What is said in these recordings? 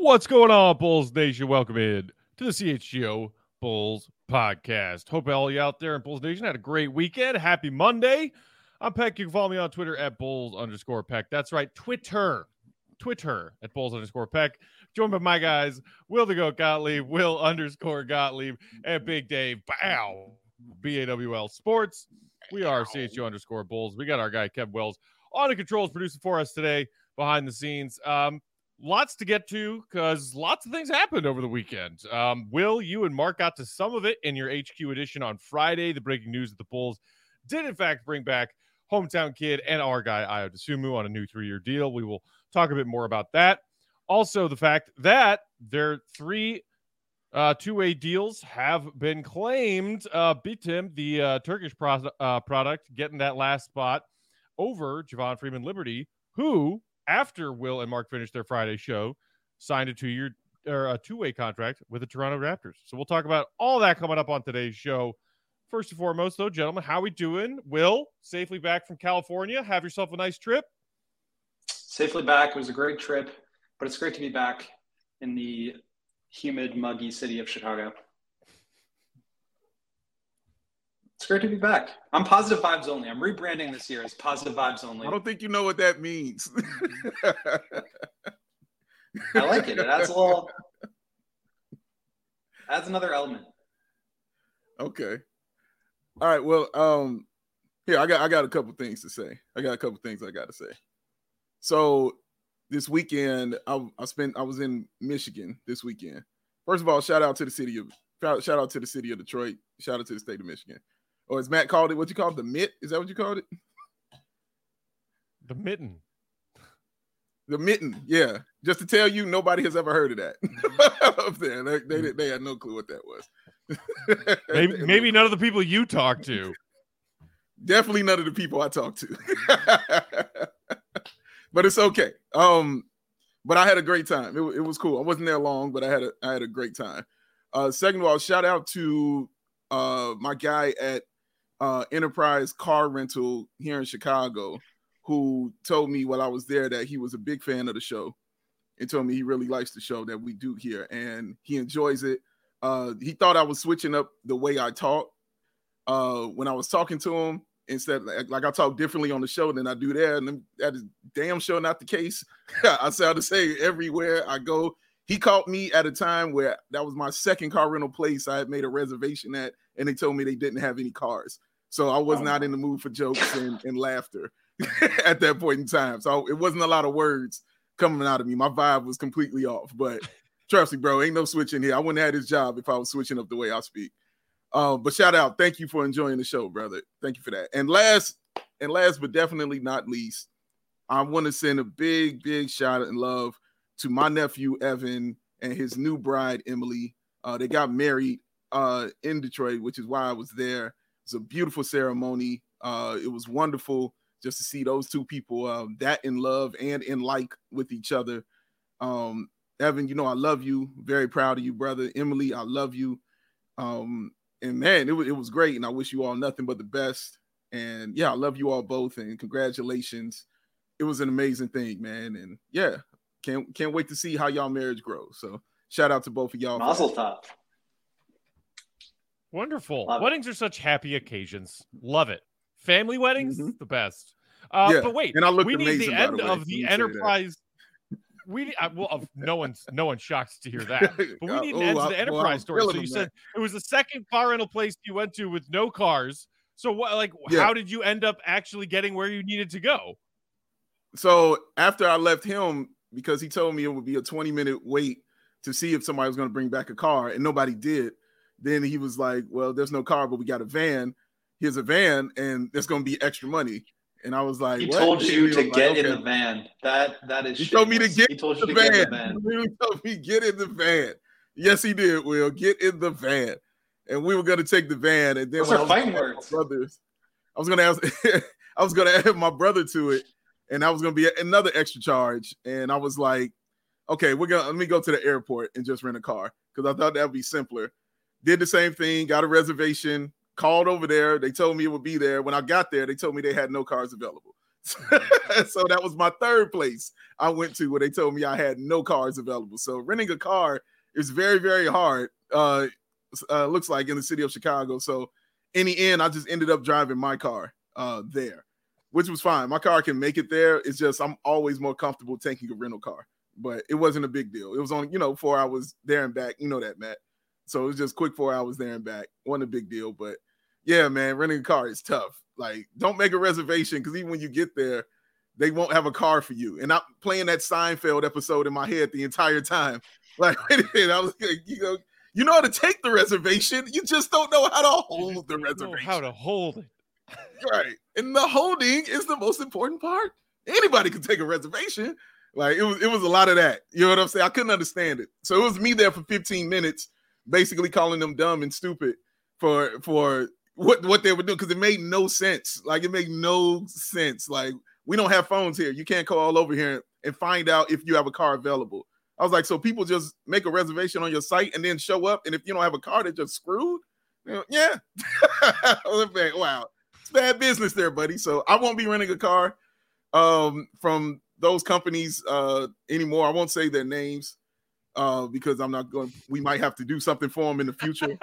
What's going on, Bulls Nation? Welcome in to the CHGO Bulls podcast. Hope all you out there in Bulls Nation had a great weekend. Happy Monday. I'm Peck. You can follow me on Twitter at Bulls_Peck. That's right, Twitter at Bulls_Peck. Joined by my guys, Will the Goat Gottlieb, Will_Gottlieb, and Big Dave Bow, BAWL Sports. We are CHGO_Bulls. We got our guy, Kev Wells, on the controls producing for us today behind the scenes. Lots to get to because lots of things happened over the weekend. Will, you and Mark got to some of it in your HQ edition on Friday. The breaking news that the Bulls did, in fact, bring back hometown kid and our guy, Ayo Dosunmu, on a new 3-year deal. We will talk a bit more about that. Also, the fact that their 3 two-way deals have been claimed. Bitim, the Turkish product, getting that last spot over Javon Freeman Liberty, who, after Will and Mark finished their Friday show, signed a 2-way contract with the Toronto Raptors. So we'll talk about all that coming up on today's show. First and foremost, though, gentlemen, how we doing? Will, safely back from California. Have yourself a nice trip. Safely back. It was a great trip, but it's great to be back in the humid, muggy city of Chicago. It's great to be back. I'm positive vibes only. I'm rebranding this year as positive vibes only. I don't think you know what that means. I like it. It adds another element. Okay. All right. Well, here I got a couple things to say. I got to say. So this weekend, I was in Michigan this weekend. First of all, shout out to the city of Detroit. Shout out to the state of Michigan. Or as Matt called it, what you call it? The mitt? Is that what you called it? The mitten. The mitten, yeah. Just to tell you, nobody has ever heard of that up there. They had no clue what that was. maybe none of the people you talk to. Definitely none of the people I talk to. But it's okay. But I had a great time. It was cool. I wasn't there long, but I had a great time. Second of all, shout out to my guy at Enterprise Car Rental here in Chicago, who told me while I was there that he was a big fan of the show and told me he really likes the show that we do here and he enjoys it. He thought I was switching up the way I talk when I was talking to him. Instead, like I talk differently on the show than I do there, and that is damn sure not the case. I sound the same everywhere I go. He caught me at a time where that was my second car rental place I had made a reservation at, and they told me they didn't have any cars. So I was not in the mood for jokes and laughter at that point in time. So it wasn't a lot of words coming out of me. My vibe was completely off. But trust me, bro, ain't no switching here. I wouldn't have had his job if I was switching up the way I speak. But shout out. Thank you for enjoying the show, brother. Thank you for that. And last but definitely not least, I want to send a big, big shout out and love to my nephew, Evan, and his new bride, Emily. They got married in Detroit, which is why I was there. It's a beautiful ceremony. It was wonderful just to see those two people that in love and in like with each other. Evan, you know I love you. Very proud of you, brother. Emily, I love you. And man, it was great, and I wish you all nothing but the best. And yeah, I love you all both, and congratulations. It was an amazing thing, man. And yeah, can't wait to see how y'all marriage grows. So shout out to both of y'all. Mazel tov. Wonderful. Weddings are such happy occasions. Love it. Family weddings, the best. But wait, and I we need the end of the Enterprise. No one's shocked to hear that. But we need an end to the Enterprise story. So you said it was the second car rental place you went to with no cars. So what? How did you end up actually getting where you needed to go? So after I left him, because he told me it would be a 20-minute wait to see if somebody was going to bring back a car, and nobody did. Then he was like, well, there's no car, but we got a van. Here's a van, and there's going to be extra money. And I was like, he told you to get in the van. That is. He told me to get in the van. He really told me get in the van. Yes, he did. Will get in the van, and we were going to take the van. And then those are fighting words. Brothers, I was going to add my brother to it, and that was going to be another extra charge. And I was like, okay, let me go to the airport and just rent a car because I thought that would be simpler. Did the same thing, got a reservation, called over there. They told me it would be there. When I got there, they told me they had no cars available. So that was my third place I went to where they told me I had no cars available. So renting a car is very, very hard. Looks like in the city of Chicago. So in the end, I just ended up driving my car there, which was fine. My car can make it there. It's just I'm always more comfortable taking a rental car. But it wasn't a big deal. It was only 4 hours there and back. You know that, Matt. So it was just quick 4 hours there and back. Wasn't a big deal. But yeah, man, renting a car is tough. Like, don't make a reservation because even when you get there, they won't have a car for you. And I'm playing that Seinfeld episode in my head the entire time. Like, wait a minute, I was like, you know how to take the reservation. You just don't know how to hold the reservation. How to hold it. Right. And the holding is the most important part. Anybody can take a reservation. Like, it was a lot of that. You know what I'm saying? I couldn't understand it. So it was me there for 15 minutes, basically calling them dumb and stupid for what they would do, because it made no sense. Like, it made no sense. Like, we don't have phones here. You can't call all over here and find out if you have a car available. I was like, so people just make a reservation on your site and then show up, and if you don't have a car, they're just screwed? Yeah. Wow. It's bad business there, buddy. So I won't be renting a car from those companies anymore. I won't say their names because I'm not going. We might have to do something for them in the future.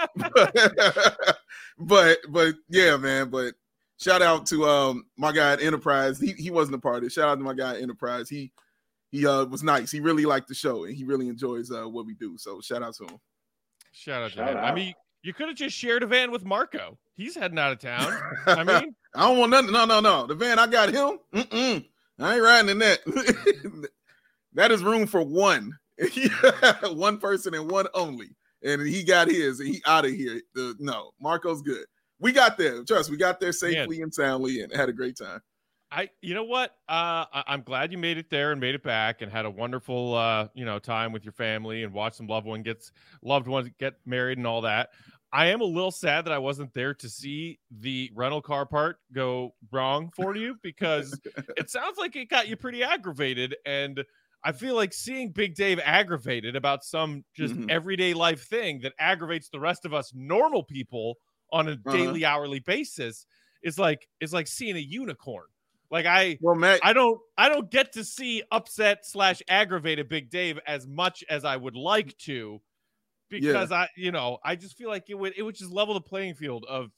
but yeah, man. But shout out to my guy at Enterprise. He wasn't a part of it. Shout out to my guy at Enterprise. He was nice. He really liked the show and he really enjoys what we do. So shout out to him. Shout out to him. I mean, you could have just shared a van with Marco. He's heading out of town. I mean, I don't want nothing. No. The van I got him. I ain't riding in that. That is room for one. One person and one only. And he got his and he out of here. No, Marco's good. We got there. Trust, we got there safely and soundly and had a great time. You know what? I'm glad you made it there and made it back and had a wonderful, time with your family and watch some loved ones get married and all that. I am a little sad that I wasn't there to see the rental car part go wrong for you, because it sounds like it got you pretty aggravated. And I feel like seeing Big Dave aggravated about some just everyday life thing that aggravates the rest of us normal people on a daily, hourly basis is like seeing a unicorn. Like Matt, I don't get to see upset / aggravated Big Dave as much as I would like to, because I just feel like it would just level the playing field of,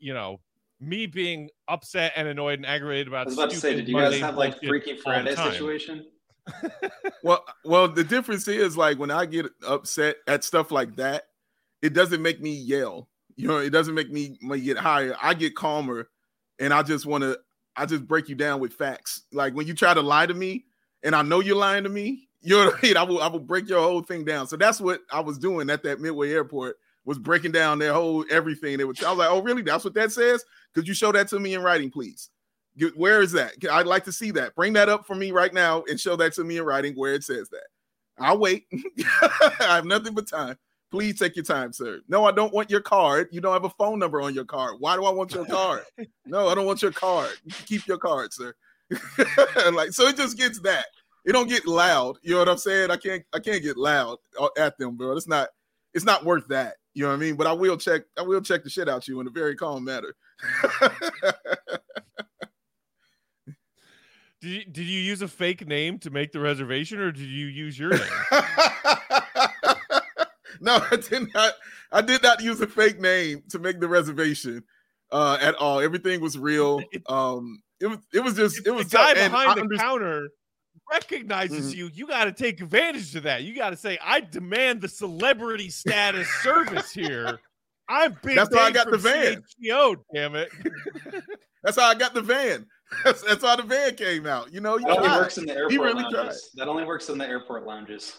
me being upset and annoyed and aggravated about. I was about to say, did you guys have like Freaky Friday situation? Well, the difference is, like, when I get upset at stuff like that, it doesn't make me yell. It doesn't make me get higher. I get calmer, and I just break you down with facts. Like, when you try to lie to me and I know you're lying to me, you know what I mean? I will break your whole thing down. So that's what I was doing at that Midway Airport, was breaking down their whole everything. I was like, oh, really? That's what that says? Could you show that to me in writing, please? Where is that? I'd like to see that. Bring that up for me right now and show that to me in writing where it says that. I'll wait. I have nothing but time. Please take your time, sir. No, I don't want your card. You don't have a phone number on your card. Why do I want your card? No, I don't want your card. You can keep your card, sir. So it just gets that. It don't get loud. You know what I'm saying? I can't get loud at them, bro. It's not worth that. You know what I mean? But I will check the shit out you in a very calm manner. Did you use a fake name to make the reservation, or did you use your name? No, I did not use a fake name to make the reservation at all. Everything was real. It was the guy behind the counter recognizes you. You got to take advantage of that. You got to say, I demand the celebrity status service here. I'm Big That's Dave why I got the van. CHGO, damn it. That's how I got the van. That's how the van came out. That only works in the airport lounges. That only works in the airport lounges.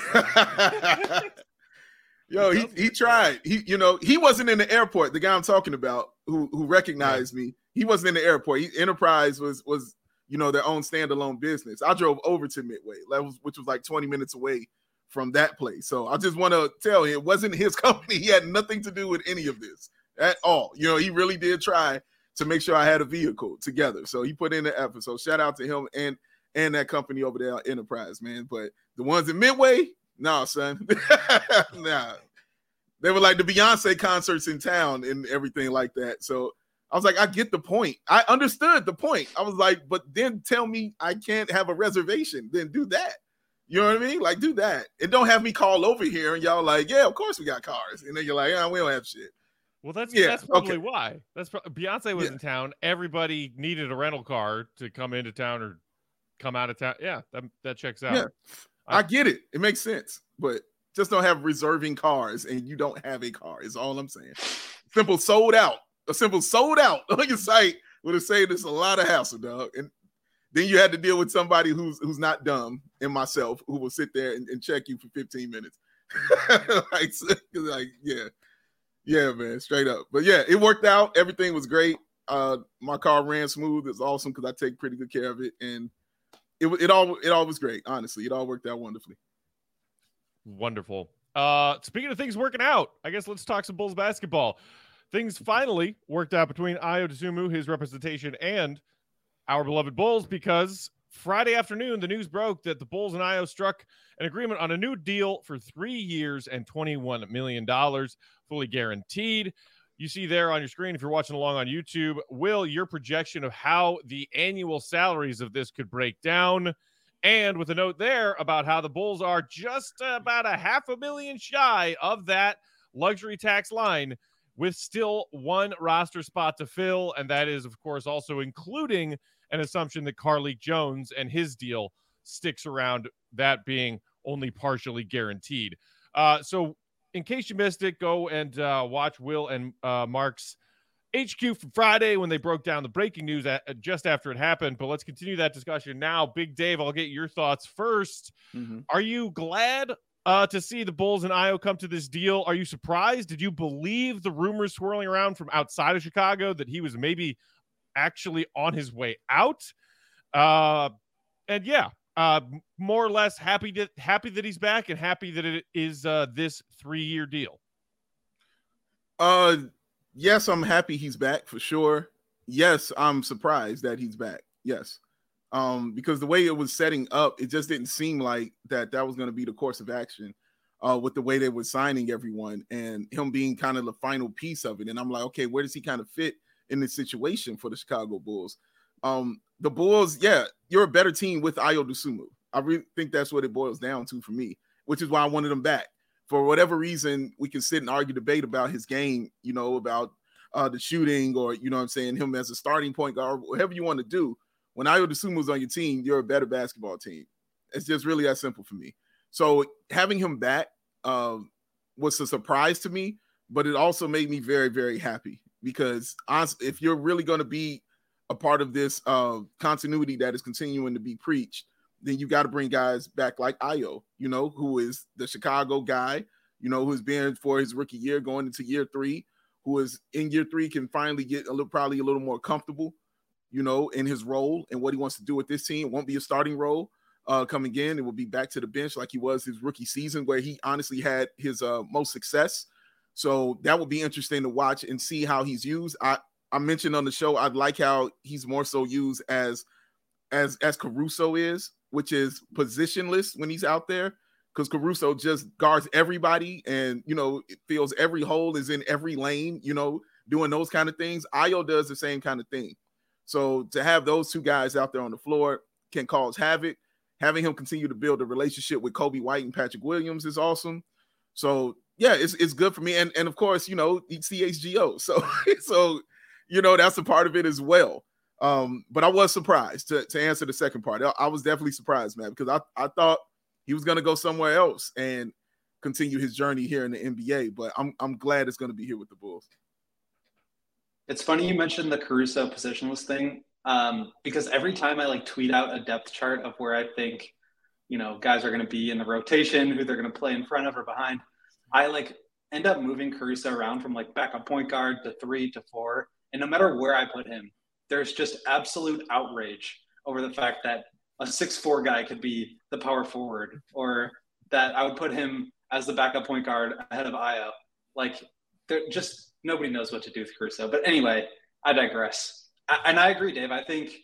Yo, he tried. He wasn't in the airport. The guy I'm talking about who recognized me, he wasn't in the airport. Enterprise was their own standalone business. I drove over to Midway, which was like 20 minutes away from that place. So I just want to tell you, it wasn't his company. He had nothing to do with any of this at all. He really did try to make sure I had a vehicle together. So he put in the effort. So shout out to him and that company over there, Enterprise, man. But the ones in Midway, nah, son. Nah. They were like the Beyonce concerts in town and everything like that. So I was like, I get the point. I understood the point. I was like, but then tell me I can't have a reservation. Then do that. You know what I mean? Like, do that. And don't have me call over here and y'all like, yeah, of course we got cars. And then you're like, yeah, we don't have shit. Well, that's probably why. Beyonce was in town. Everybody needed a rental car to come into town or come out of town. Yeah, that checks out. Yeah, I get it. It makes sense. But just don't have reserving cars and you don't have a car is all I'm saying. Simple sold out. A simple sold out on your site would have saved us a lot of hassle, dog. And then you had to deal with somebody who's not dumb and myself who will sit there and check you for 15 minutes. Yeah, man, straight up. But yeah, it worked out. Everything was great. My car ran smooth. It's awesome because I take pretty good care of it. And it all was great, honestly. It all worked out wonderfully. Wonderful. Speaking of things working out, I guess let's talk some Bulls basketball. Things finally worked out between Ayo Dosunmu, his representation, and our beloved Bulls, because Friday afternoon, the news broke that the Bulls and Ayo struck an agreement on a new deal for 3 years and $21 million, fully guaranteed. You see there on your screen, if you're watching along on YouTube, Will, your projection of how the annual salaries of this could break down, and with a note there about how the Bulls are just about $500,000 shy of that luxury tax line, with still one roster spot to fill, and that is, of course, also including an assumption that Carlik Jones and his deal sticks around, that being only partially guaranteed. So in case you missed it, go and watch Will and Mark's HQ from Friday when they broke down the breaking news just after it happened. But let's continue that discussion now. Big Dave, I'll get your thoughts first. Mm-hmm. Are you glad to see the Bulls and Ayo come to this deal? Are you surprised? Did you believe the rumors swirling around from outside of Chicago that he was maybe actually on his way out? And yeah, more or less happy that he's back and happy that it is this 3-year deal. Yes, I'm happy he's back for sure. Yes, I'm surprised that he's back. Yes. Because the way it was setting up, it just didn't seem like that was going to be the course of action with the way they were signing everyone and him being kind of the final piece of it. And I'm like, okay, where does he kind of fit in this situation for the Chicago Bulls? The Bulls, yeah, you're a better team with Ayo Dosunmu. I really think that's what it boils down to for me, which is why I wanted him back. For whatever reason, we can sit and argue, debate about his game, about the shooting or, what I'm saying, him as a starting point guard, whatever you want to do. When Ayo Dosunmu's on your team, you're a better basketball team. It's just really that simple for me. So having him back was a surprise to me, but it also made me very, very happy because honestly, if you're really going to be a part of this continuity that is continuing to be preached, then you got to bring guys back like Ayo, who is the Chicago guy, who's been for his rookie year going into year 3, who is in year 3 can finally get probably a little more comfortable, in his role and what he wants to do with this team. It won't be a starting role coming in. It will be back to the bench like he was his rookie season where he honestly had his most success. So that will be interesting to watch and see how he's used. I mentioned on the show, I like how he's more so used as Caruso is, which is positionless when he's out there because Caruso just guards everybody and, it feels every hole is in every lane, doing those kind of things. Ayo does the same kind of thing. So to have those two guys out there on the floor can cause havoc. Having him continue to build a relationship with Kobe White and Patrick Williams is awesome. So yeah, it's good for me. And of course, he's CHGO. So that's a part of it as well. But I was surprised to answer the second part. I was definitely surprised, man, because I thought he was going to go somewhere else and continue his journey here in the NBA. But I'm glad it's going to be here with the Bulls. It's funny you mentioned the Caruso positionless thing because every time I tweet out a depth chart of where I think, guys are going to be in the rotation, who they're going to play in front of or behind, I end up moving Caruso around from backup point guard to 3 to 4. And no matter where I put him, there's just absolute outrage over the fact that a 6'4" guy could be the power forward or that I would put him as the backup point guard ahead of Ayo. They're just – nobody knows what to do with Caruso. But anyway, I digress. And I agree, Dave. I think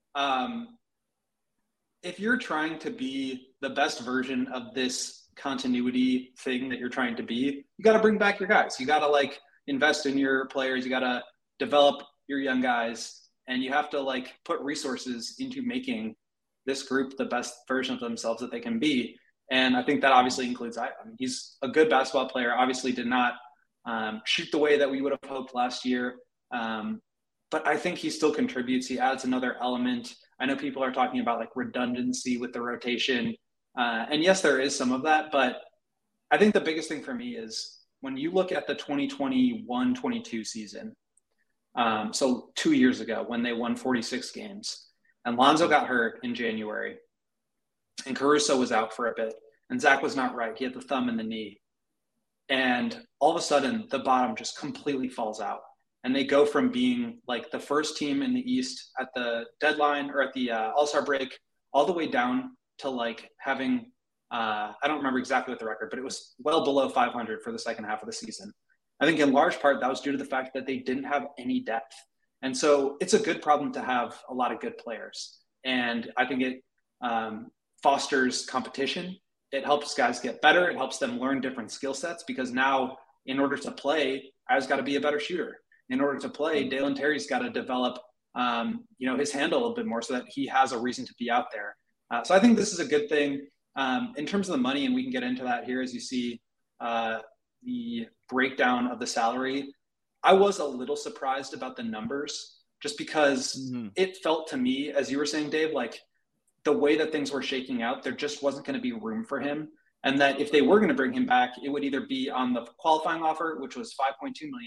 if you're trying to be the best version of this continuity thing that you're trying to be, you got to bring back your guys. You got to invest in your players. You got to develop your young guys, and you have to like put resources into making this group the best version of themselves that they can be. And I think that obviously includes Ayo. I mean, he's a good basketball player, obviously did not shoot the way that we would have hoped last year. But I think he still contributes. He adds another element. I know people are talking about like redundancy with the rotation. And yes, there is some of that, but I think the biggest thing for me is when you look at the 2021-22 season, so 2 years ago when they won 46 games, and Lonzo got hurt in January, and Caruso was out for a bit, and Zach was not right. He had the thumb in the knee. And all of a sudden, the bottom just completely falls out. And they go from being like the first team in the East at the deadline or at the All-Star break all the way down to like having I don't remember exactly what the record, but it was well below 500 for the second half of the season. I think in large part that was due to the fact that they didn't have any depth. And so it's a good problem to have a lot of good players. And I think it fosters competition. It helps guys get better. It helps them learn different skill sets because now in order to play, I've got to be a better shooter. In order to play, Dalen Terry's got to develop his handle a little bit more so that he has a reason to be out there. So I think this is a good thing. In terms of the money, and we can get into that here as you see the breakdown of the salary, I was a little surprised about the numbers just because it felt to me, as you were saying, Dave, like the way that things were shaking out, there just wasn't going to be room for him. And that if they were going to bring him back, it would either be on the qualifying offer, which was $5.2 million,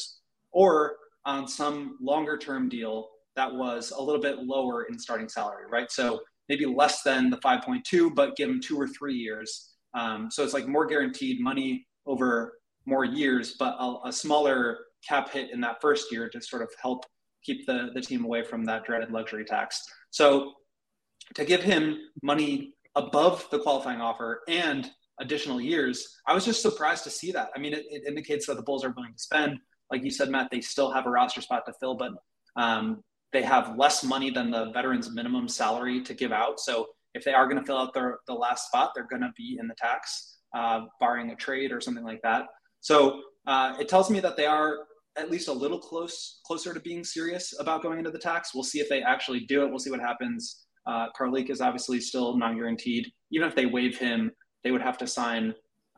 or on some longer term deal that was a little bit lower in starting salary, right? So maybe less than the 5.2, but give him 2 or 3 years. So it's like more guaranteed money over more years, but a smaller cap hit in that first year to sort of help keep the team away from that dreaded luxury tax. So to give him money above the qualifying offer and additional years, I was just surprised to see that. I mean, it indicates that the Bulls are willing to spend. Like you said, Matt, they still have a roster spot to fill, but they have less money than the veterans minimum salary to give out. So if they are going to fill out the last spot, they're going to be in the tax, barring a trade or something like that. So it tells me that they are at least a little closer to being serious about going into the tax. We'll see if they actually do it. We'll see what happens. Karlik is obviously still non-guaranteed. Even if they waive him, they would have to sign.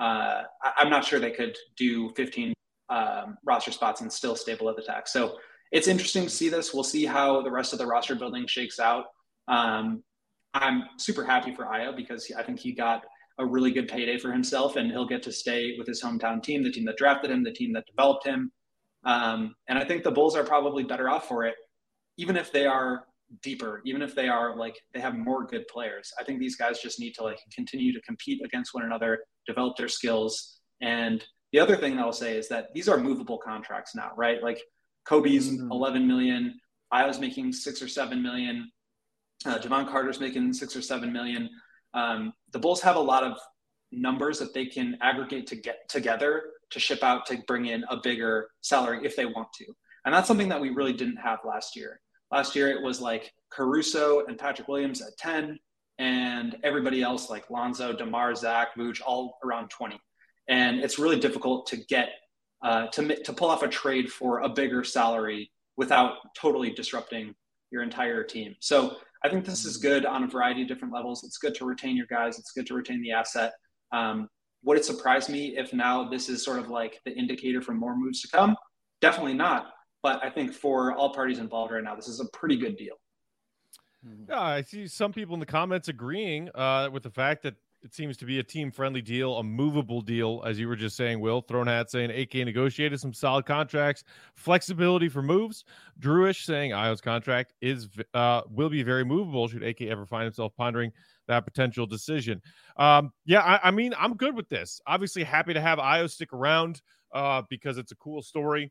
I'm not sure they could do 15 roster spots and still stay below the tax. So it's interesting to see this. We'll see how the rest of the roster building shakes out. I'm super happy for Ayo because I think he got a really good payday for himself, and he'll get to stay with his hometown team, the team that drafted him, the team that developed him. And I think the Bulls are probably better off for it, even if they are deeper, even if they are like they have more good players. I think these guys just need to like continue to compete against one another, develop their skills. And the other thing that I'll say is that these are movable contracts now, right? Like Kobe's 11 million, Ayo's making 6 or 7 million, Javon Carter's making 6 or 7 million. The Bulls have a lot of numbers that they can aggregate to get together to ship out to bring in a bigger salary if they want to. And that's something that we really didn't have last year. Last year, it was like Caruso and Patrick Williams at 10, and everybody else like Lonzo, DeMar, Zach, Vooch, all around 20. And it's really difficult to get to pull off a trade for a bigger salary without totally disrupting your entire team. So I think this is good on a variety of different levels. It's good to retain your guys. It's good to retain the asset. Would it surprise me if now this is sort of like the indicator for more moves to come? Definitely not. But I think for all parties involved right now, this is a pretty good deal. Yeah, I see some people in the comments agreeing with the fact that it seems to be a team-friendly deal, a movable deal, as you were just saying, Will. Throne Hat saying AK negotiated some solid contracts, flexibility for moves. Drewish saying Ayo's contract will be very movable should AK ever find himself pondering that potential decision. I mean, I'm good with this. Obviously happy to have Ayo stick around because it's a cool story.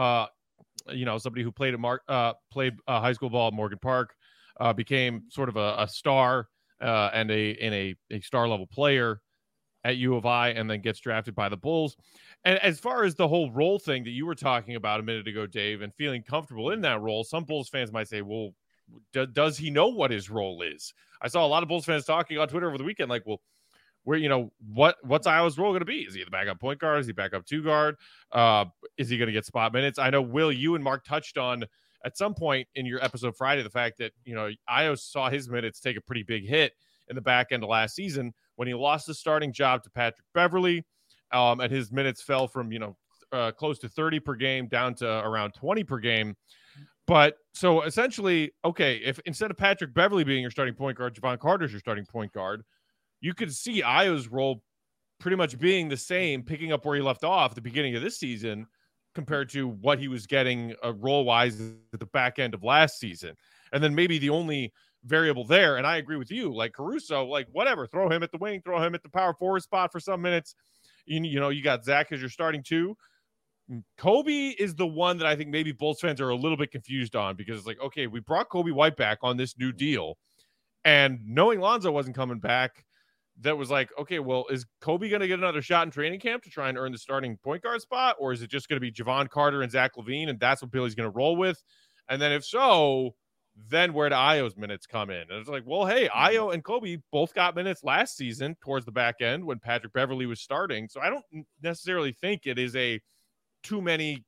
Somebody who played high school ball at Morgan Park, became sort of a star and a star level player at U of I, and then gets drafted by the Bulls. And as far as the whole role thing that you were talking about a minute ago, Dave, and feeling comfortable in that role, some Bulls fans might say, well, does he know what his role is? I saw a lot of Bulls fans talking on Twitter over the weekend, like, well, what's Ayo's role going to be? Is he the backup point guard? Is he backup 2 guard? Is he going to get spot minutes? I know, Will, you and Mark touched on at some point in your episode Friday, the fact that, Ayo saw his minutes take a pretty big hit in the back end of last season when he lost the starting job to Patrick Beverley, and his minutes fell from, close to 30 per game down to around 20 per game. But so essentially, okay, if instead of Patrick Beverley being your starting point guard, Jevon Carter's your starting point guard, you could see Ayo's role pretty much being the same, picking up where he left off at the beginning of this season compared to what he was getting role-wise at the back end of last season. And then maybe the only variable there, and I agree with you, like Caruso, like whatever, throw him at the wing, throw him at the power forward spot for some minutes. You got Zach as your starting two. Kobe is the one that I think maybe Bulls fans are a little bit confused on, because it's like, okay, we brought Kobe White back on this new deal, and knowing Lonzo wasn't coming back, that was like, okay, well, is Kobe going to get another shot in training camp to try and earn the starting point guard spot? Or is it just going to be Jevon Carter and Zach LaVine, and that's what Billy's going to roll with? And then if so, then where do Ayo's minutes come in? And it's like, well, hey, Ayo and Kobe both got minutes last season towards the back end when Patrick Beverley was starting. So I don't necessarily think it is a too many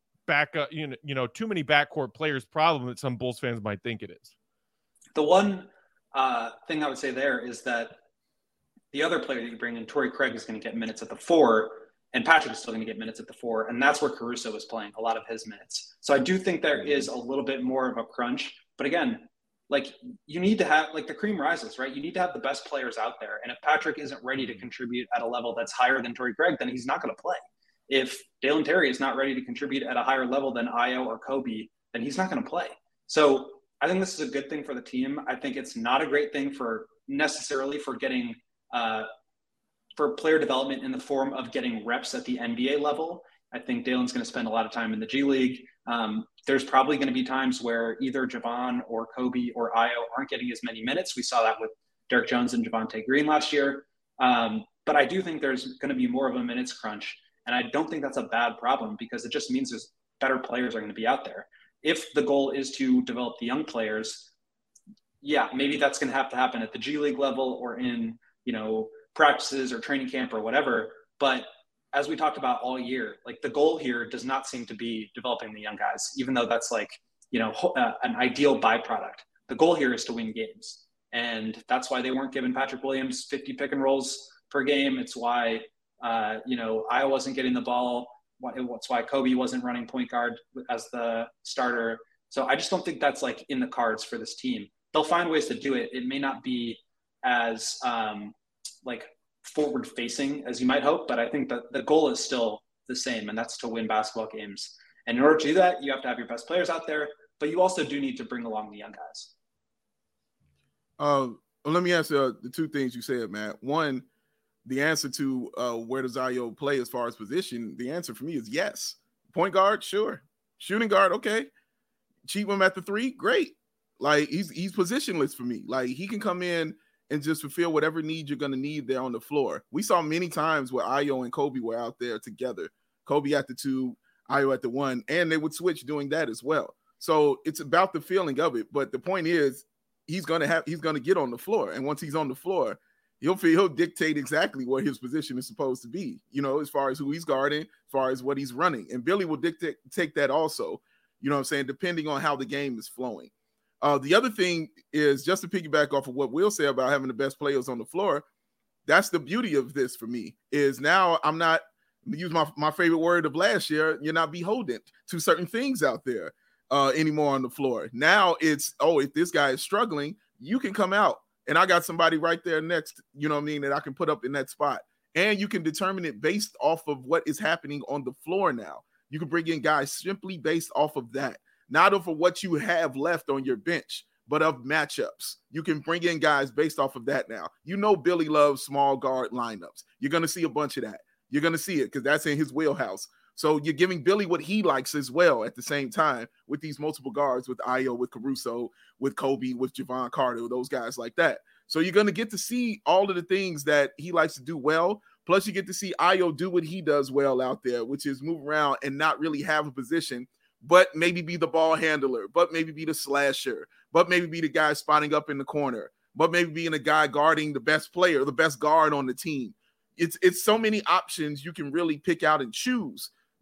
backcourt players problem that some Bulls fans might think it is. The one thing I would say there is that the other player that you bring in, Torrey Craig, is going to get minutes at the 4, and Patrick is still going to get minutes at the 4, and that's where Caruso is playing a lot of his minutes. So I do think there is a little bit more of a crunch. But again, like, you need to have, like, the cream rises, right? You need to have the best players out there. And if Patrick isn't ready to contribute at a level that's higher than Torrey Craig, then he's not going to play. If Dalen Terry is not ready to contribute at a higher level than Ayo or Kobe, then he's not going to play. So I think this is a good thing for the team. I think it's not a great thing for getting for player development in the form of getting reps at the NBA level. I think Dalen's going to spend a lot of time in the G League. There's probably going to be times where either Jevon or Kobe or Ayo aren't getting as many minutes. We saw that with Derek Jones and Javonte Green last year. But I do think there's going to be more of a minutes crunch. And I don't think that's a bad problem, because it just means there's better players are going to be out there. If the goal is to develop the young players, yeah, maybe that's going to happen at the G League level or in, practices or training camp or whatever. But as we talked about all year, like, the goal here does not seem to be developing the young guys, even though that's like, an ideal byproduct. The goal here is to win games. And that's why they weren't giving Patrick Williams 50 pick and rolls per game. It's why, Ayo wasn't getting the ball. It's why Kobe wasn't running point guard as the starter. So I just don't think that's, like, in the cards for this team. They'll find ways to do it. It may not be as forward facing as you might hope, but I think that the goal is still the same, and that's to win basketball games. And in order to do that, you have to have your best players out there, but you also do need to bring along the young guys. Let me answer the two things you said, Matt. One, the answer to where does Ayo play as far as position, the answer for me is yes. Point guard, sure. Shooting guard, okay. Cheat him at the 3, great. Like, he's positionless for me. Like, he can come in and just fulfill whatever need you're going to need there on the floor. We saw many times where Ayo and Kobe were out there together. Kobe at the 2, Ayo at the 1, and they would switch doing that as well. So it's about the feeling of it. But the point is, he's going to get on the floor. And once he's on the floor, he'll dictate exactly where his position is supposed to be, as far as who he's guarding, as far as what he's running. And Billy will take that also, depending on how the game is flowing. The other thing is, just to piggyback off of what Will said about having the best players on the floor, that's the beauty of this for me, is now I'm not, use my favorite word of last year, you're not beholden to certain things out there anymore on the floor. Now it's, if this guy is struggling, you can come out and I got somebody right there next, that I can put up in that spot. And you can determine it based off of what is happening on the floor now. You can bring in guys simply based off of that. Not of what you have left on your bench, but of matchups. You can bring in guys based off of that now. Billy loves small guard lineups. You're going to see a bunch of that. You're going to see it because that's in his wheelhouse. So you're giving Billy what he likes as well at the same time with these multiple guards, with Ayo, with Caruso, with Kobe, with Jevon Carter, those guys like that. So you're going to get to see all of the things that he likes to do well. Plus you get to see Ayo do what he does well out there, which is move around and not really have a position, but maybe be the ball handler, but maybe be the slasher, but maybe be the guy spotting up in the corner, but maybe being a guy guarding the best player, the best guard on the team. It's so many options you can really pick out and choose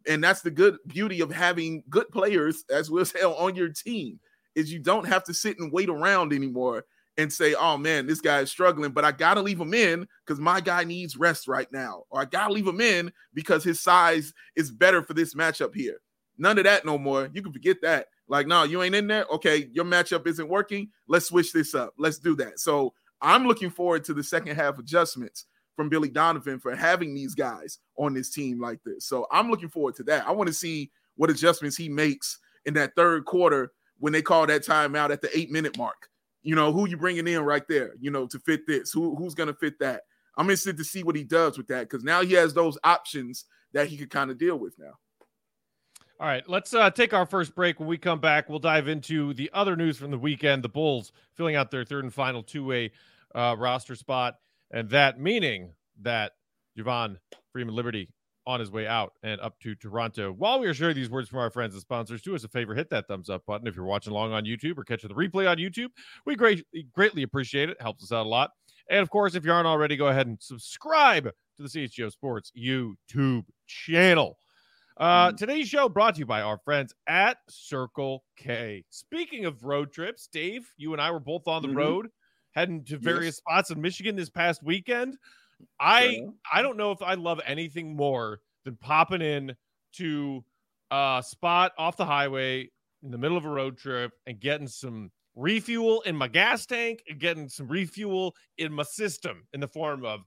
And that's the good beauty of having good players as well as hell on your team, is you don't have to sit and wait around anymore and say, oh man, this guy is struggling, but I got to leave him in because my guy needs rest right now. Or I got to leave him in because his size is better for this matchup here. None of that no more. You can forget that. Like, no, you ain't in there. Okay, your matchup isn't working. Let's switch this up. Let's do that. So I'm looking forward to the second half adjustments from Billy Donovan for having these guys on this team like this. So I'm looking forward to that. I want to see what adjustments he makes in that third quarter when they call that timeout at the 8-minute mark. You know, who you bringing in right there, you know, to fit this? Who's going to fit that? I'm interested to see what he does with that because now he has those options that he could kind of deal with now. All right, let's take our first break. When we come back, we'll dive into the other news from the weekend. The Bulls filling out their third and final two-way roster spot, and that meaning that Javon Freeman-Liberty on his way out and up to Toronto. While we are sharing these words from our friends and sponsors, do us a favor, hit that thumbs up button if you're watching along on YouTube or catching the replay on YouTube. We greatly appreciate it. Helps us out a lot. And, of course, if you aren't already, go ahead and subscribe to the CHGO Sports YouTube channel. Today's show brought to you by our friends at Circle K. Speaking of road trips, Dave, you and I were both on the road, heading to various spots in Michigan this past weekend. I don't know if I love anything more than popping in to a spot off the highway in the middle of a road trip and getting some refuel in my gas tank and getting some refuel in my system in the form of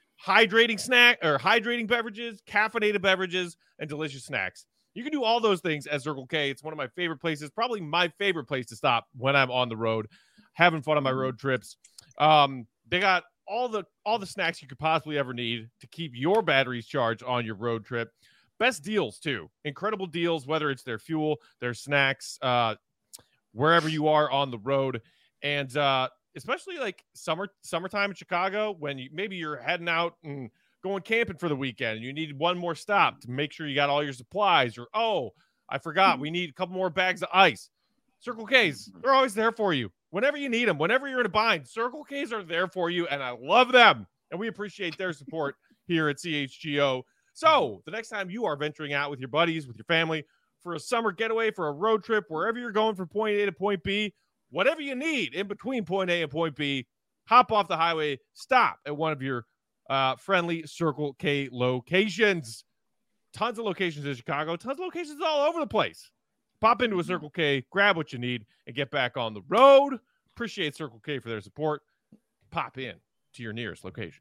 hydrating beverages, caffeinated beverages, and delicious snacks. You can do all those things at Circle K. It's one of my favorite places, probably my favorite place to stop when I'm on the road, having fun on my road trips. They got all the snacks you could possibly ever need to keep your batteries charged on your road trip. Best deals too. Incredible deals, whether it's their fuel, their snacks, wherever you are on the road. And especially like summertime in Chicago, when maybe you're heading out and going camping for the weekend and you need one more stop to make sure you got all your supplies, or, oh, I forgot, we need a couple more bags of ice. Circle K's, they're always there for you. Whenever you need them, whenever you're in a bind, Circle K's are there for you, and I love them. And we appreciate their support here at CHGO. So the next time you are venturing out with your buddies, with your family, for a summer getaway, for a road trip, wherever you're going from point A to point B, whatever you need in between point A and point B, hop off the highway, stop at one of your friendly Circle K locations. Tons of locations in Chicago, tons of locations all over the place. Pop into a Circle K, grab what you need, and get back on the road. Appreciate Circle K for their support. Pop in to your nearest location.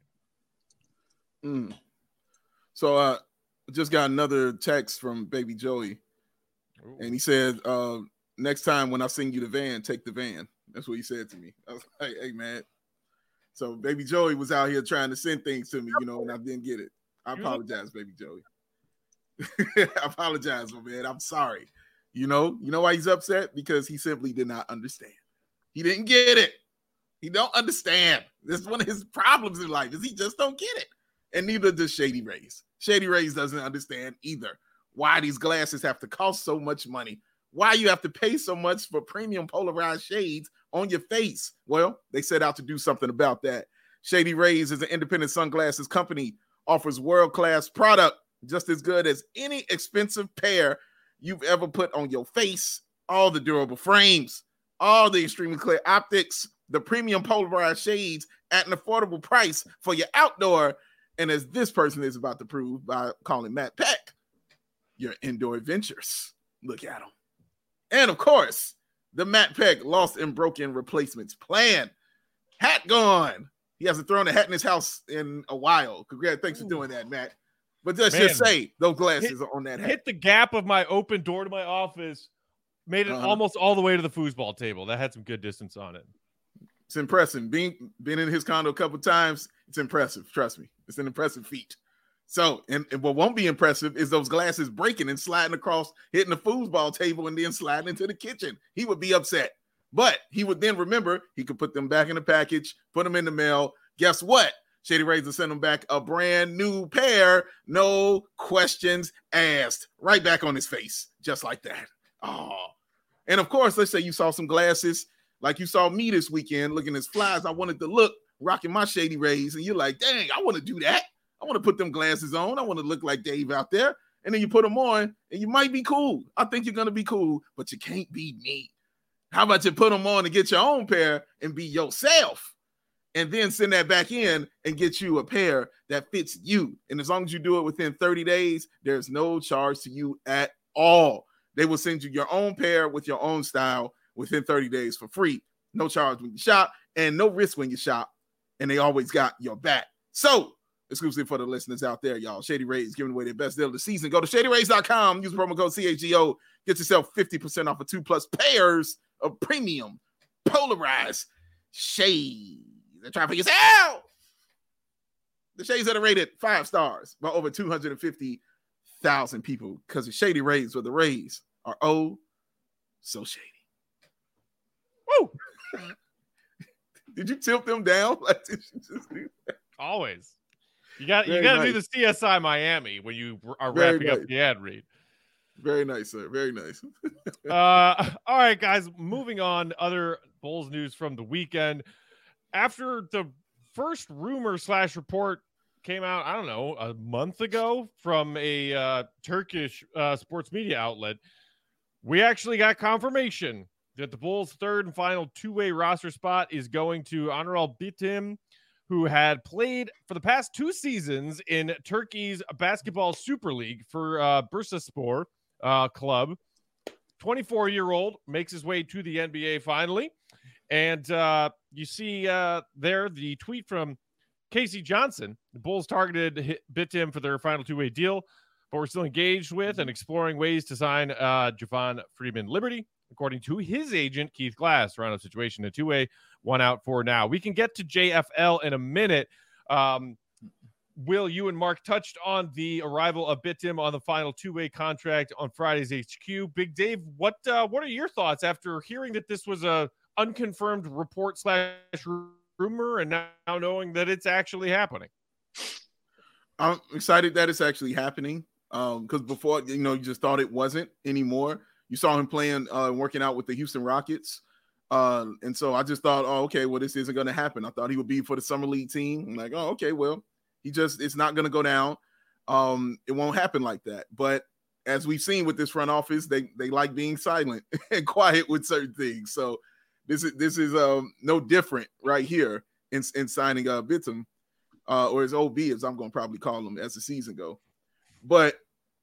So just got another text from Baby Joey. Ooh. And he said, next time when I sing you the van, take the van. That's what he said to me. I was like, hey, man. So Baby Joey was out here trying to send things to me, you know, and I didn't get it. I apologize, Baby Joey. I apologize, my man. I'm sorry. You know why he's upset? Because he simply did not understand. He didn't get it. He don't understand. This is one of his problems in life, is he just don't get it. And neither does Shady Rays. Shady Rays doesn't understand either why these glasses have to cost so much money, why you have to pay so much for premium polarized shades on your face. Well, they set out to do something about that. Shady Rays is an independent sunglasses company, offers world-class product, just as good as any expensive pair you've ever put on your face. All the durable frames, all the extremely clear optics, the premium polarized shades at an affordable price for your outdoor, and as this person is about to prove by calling Matt Peck, your indoor adventures. Look at him. And of course, the Matt Peck lost and broken replacements plan. Hat gone. He hasn't thrown a hat in his house in a while. Congrats. Thanks for doing that, Matt. But let's just say those glasses are on that hat. Hit the gap of my open door to my office. Made it almost all the way to the foosball table. That had some good distance on it. It's impressive. Been in his condo a couple times. It's impressive. Trust me. It's an impressive feat. So, and what won't be impressive is those glasses breaking and sliding across, hitting the foosball table, and then sliding into the kitchen. He would be upset. But he would then remember he could put them back in the package, put them in the mail. Guess what? Shady Rays will send them back a brand new pair. No questions asked. Right back on his face. Just like that. Oh. And of course, let's say you saw some glasses like you saw me this weekend looking as fly as I wanted to look, rocking my Shady Rays. And you're like, dang, I want to do that. I want to put them glasses on. I want to look like Dave out there. and then you put them on, and you might be cool. I think you're going to be cool, but you can't be me. How about you put them on and get your own pair and be yourself, and then send that back in and get you a pair that fits you. And as long as you do it within 30 days, there's no charge to you at all. They will send you your own pair with your own style within 30 days for free. No charge when you shop and no risk when you shop. And they always got your back. So, exclusive for the listeners out there, y'all. Shady Rays giving away their best deal of the season. Go to shadyrays.com. Use the promo code CHGO. Get yourself 50% off of 2+ pairs of premium polarized shades. They're trying for yourself. The shades that are rated 5 stars by over 250,000 people because the Shady Rays, where the Rays are oh so shady. Woo! Did you tilt them down? Like, did you just do that? Always. You got to do the CSI Miami when you are wrapping up the ad read. Very nice, sir. Very nice. All right, guys. Moving on. Other Bulls news from the weekend. After the first rumor / report came out, I don't know, a month ago from a Turkish sports media outlet, we actually got confirmation that the Bulls' third and final two-way roster spot is going to Anadolu Bitim, who had played for the past 2 seasons in Turkey's Basketball Super League for Bursaspor club. 24-year-old makes his way to the NBA finally. And you see there the tweet from Casey Johnson. The Bulls targeted Bitim for their final two-way deal, but we're still engaged with and exploring ways to sign Javon Freeman Liberty. According to his agent, Keith Glass, round of situation, a two-way, 1 out for now. We can get to JFL in a minute. Will, you and Mark touched on the arrival of Bitim on the final two-way contract on Friday's HQ. Big Dave, what are your thoughts after hearing that this was a unconfirmed report / rumor and now knowing that it's actually happening? I'm excited that it's actually happening because before, you just thought it wasn't anymore. You saw him playing, working out with the Houston Rockets. And so I just thought, oh, okay, well, this isn't going to happen. I thought he would be for the Summer League team. I'm like, oh, okay, well, it's not going to go down. It won't happen like that. But as we've seen with this front office, they like being silent and quiet with certain things. So this is no different right here in signing Bitim, or his OB, as I'm going to probably call him as the season go. But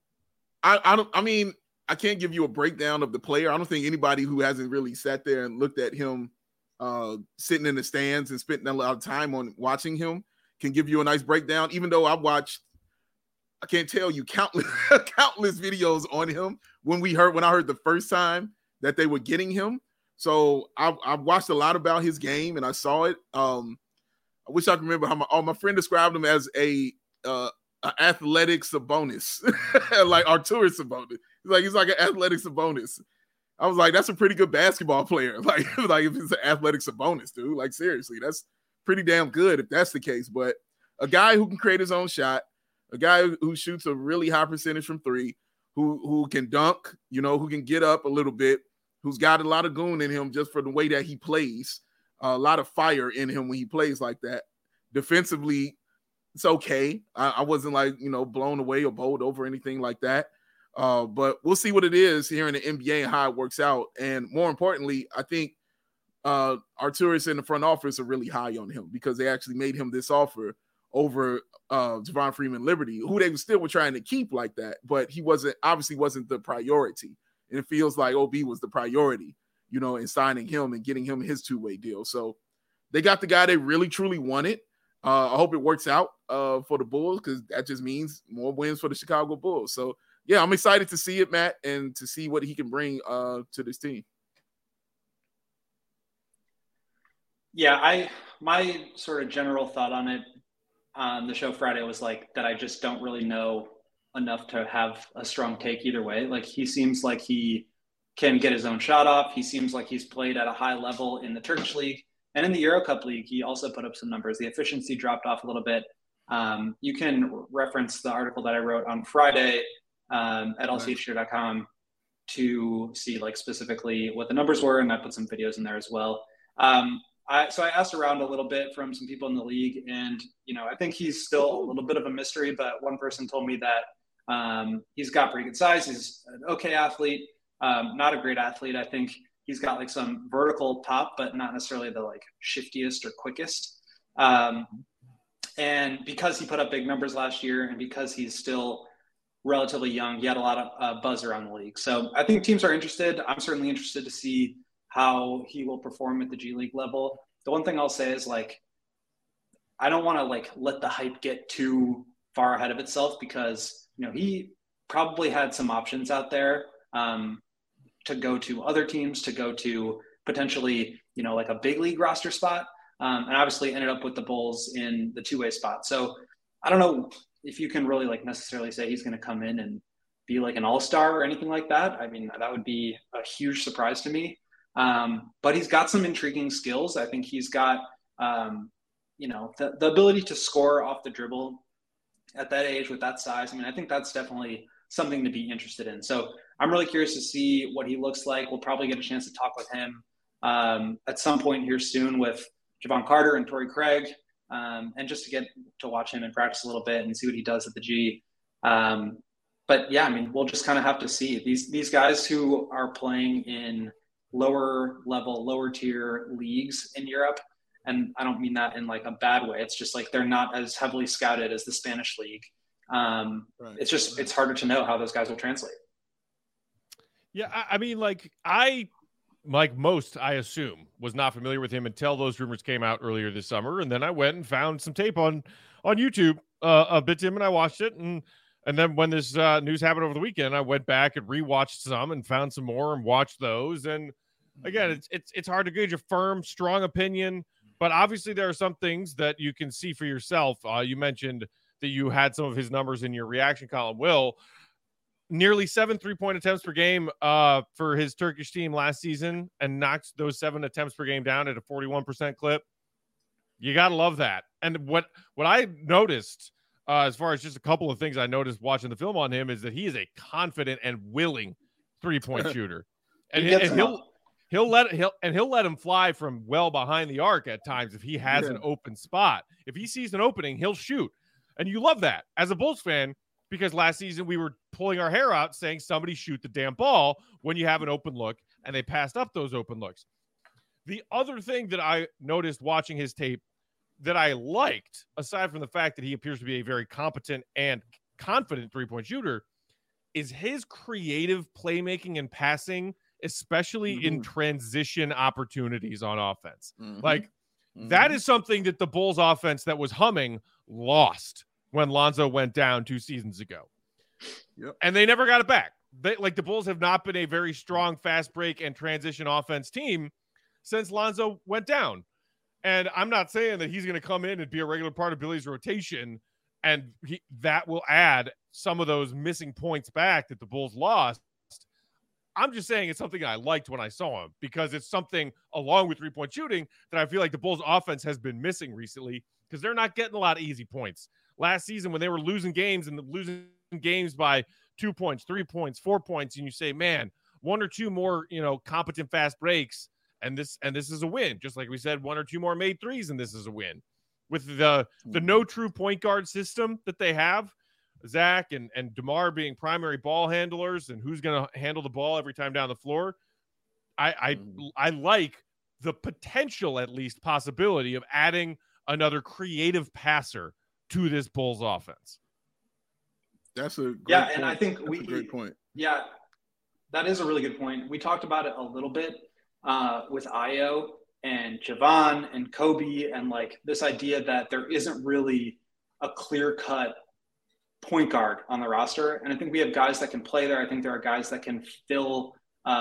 I can't give you a breakdown of the player. I don't think anybody who hasn't really sat there and looked at him sitting in the stands and spending a lot of time on watching him can give you a nice breakdown, even though I can't tell you countless videos on him when I heard the first time that they were getting him. So I've watched a lot about his game and I saw it. I wish I could remember how my friend described him as a athletic Sabonis, like Arturas Sabonis. He's like an athletic Sabonis. I was like, that's a pretty good basketball player. Like if it's an athletic Sabonis, dude, like seriously, that's pretty damn good if that's the case. But a guy who can create his own shot, a guy who shoots a really high percentage from three, who can dunk, who can get up a little bit, who's got a lot of goon in him just for the way that he plays, a lot of fire in him when he plays like that. Defensively, it's okay. I wasn't like, blown away or bowled over or anything like that. But we'll see what it is here in the NBA and how it works out. And more importantly, I think Arturas in the front office are really high on him because they actually made him this offer over Javon Freeman Liberty, who they still were trying to keep like that, but he obviously wasn't the priority. And it feels like OB was the priority, in signing him and getting him his two-way deal. So they got the guy they really, truly wanted. I hope it works out for the Bulls because that just means more wins for the Chicago Bulls. So, yeah, I'm excited to see it, Matt, and to see what he can bring to this team. Yeah, my sort of general thought on it on the show Friday was like that I just don't really know enough to have a strong take either way. Like he seems like he can get his own shot off. He seems like he's played at a high level in the Turkish league. And in the Euro Cup League, he also put up some numbers. The efficiency dropped off a little bit. You can reference the article that I wrote on Friday at lchgo.com to see like specifically what the numbers were, and I put some videos in there as well. So I asked around a little bit from some people in the league, and I think he's still a little bit of a mystery. But one person told me that He's got pretty good size. He's an okay athlete, not a great athlete. I think he's got like some vertical pop, but not necessarily the like shiftiest or quickest. And because he put up big numbers last year, and because he's still relatively young, he had a lot of buzz around the league. So I think teams are interested. I'm certainly interested to see how he will perform at the G League level. The one thing I'll say is like, I don't want to like let the hype get too far ahead of itself, because, you know, he probably had some options out there to go to other teams, to go to potentially, you know, like a big league roster spot. And obviously ended up with the Bulls in the two-way spot. So I don't know if you can really like necessarily say he's going to come in and be like an all-star or anything like that. I mean, that would be a huge surprise to me. But he's got some intriguing skills. I think he's got, you know, the ability to score off the dribble at that age with that size. I mean, I think that's definitely something to be interested in. So I'm really curious to see what he looks like. We'll probably get a chance to talk with him at some point here soon with Javon Carter and Torrey Craig, and just to get to watch him and practice a little bit and see what he does at the G. But yeah, I mean, we'll just kind of have to see these guys who are playing in lower level, lower tier leagues in Europe. And I don't mean that in like a bad way. It's just like they're not as heavily scouted as the Spanish league. Right. It's harder to know how those guys will translate. Yeah, I mean, like most, I assume, was not familiar with him until those rumors came out earlier this summer. And then I went and found some tape on YouTube of Bitim, and I watched it. And then when this news happened over the weekend, I went back and rewatched some and found some more and watched those. And again, it's hard to gauge a firm, strong opinion, but obviously there are some things that you can see for yourself. You mentioned that you had some of his numbers in your reaction column, Will. Nearly 7 3-point attempts per game for his Turkish team last season, and knocked those 7 attempts per game down at a 41% clip. You got to love that. And what I noticed, as far as just a couple of things I noticed watching the film on him, is that he is a confident and willing 3-point shooter. And he'll let him fly from well behind the arc at times if he has an open spot. If he sees an opening, he'll shoot. And you love that as a Bulls fan, because last season we were pulling our hair out saying somebody shoot the damn ball when you have an open look, and they passed up those open looks. The other thing that I noticed watching his tape that I liked, aside from the fact that he appears to be a very competent and confident 3-point shooter, is his creative playmaking and passing, especially in transition opportunities on offense. Like, that is something that the Bulls offense that was humming lost when Lonzo went down 2 seasons ago. Yep. And they never got it back. The Bulls have not been a very strong fast break and transition offense team since Lonzo went down. And I'm not saying that he's going to come in and be a regular part of Billy's rotation, and that will add some of those missing points back that the Bulls lost. I'm just saying it's something I liked when I saw him, because it's something, along with 3-point shooting, that I feel like the Bulls offense has been missing recently, because they're not getting a lot of easy points. Last season, when they were losing games by 2 points, 3 points, 4 points, and you say, man, 1 or 2 more, competent fast breaks, and this is a win. Just like we said, 1 or 2 more made threes, and this is a win. With the no true point guard system that they have, Zach and DeMar being primary ball handlers, and who's going to handle the ball every time down the floor, I like the potential, at least possibility, of adding another creative passer to this Bulls offense. That's a great point. And I think that's a great point. Yeah, that is a really good point. We talked about it a little bit with Ayo and Javon and Kobe, and like this idea that there isn't really a clear-cut point guard on the roster. And I think we have guys that can play there. I think there are guys that can fill,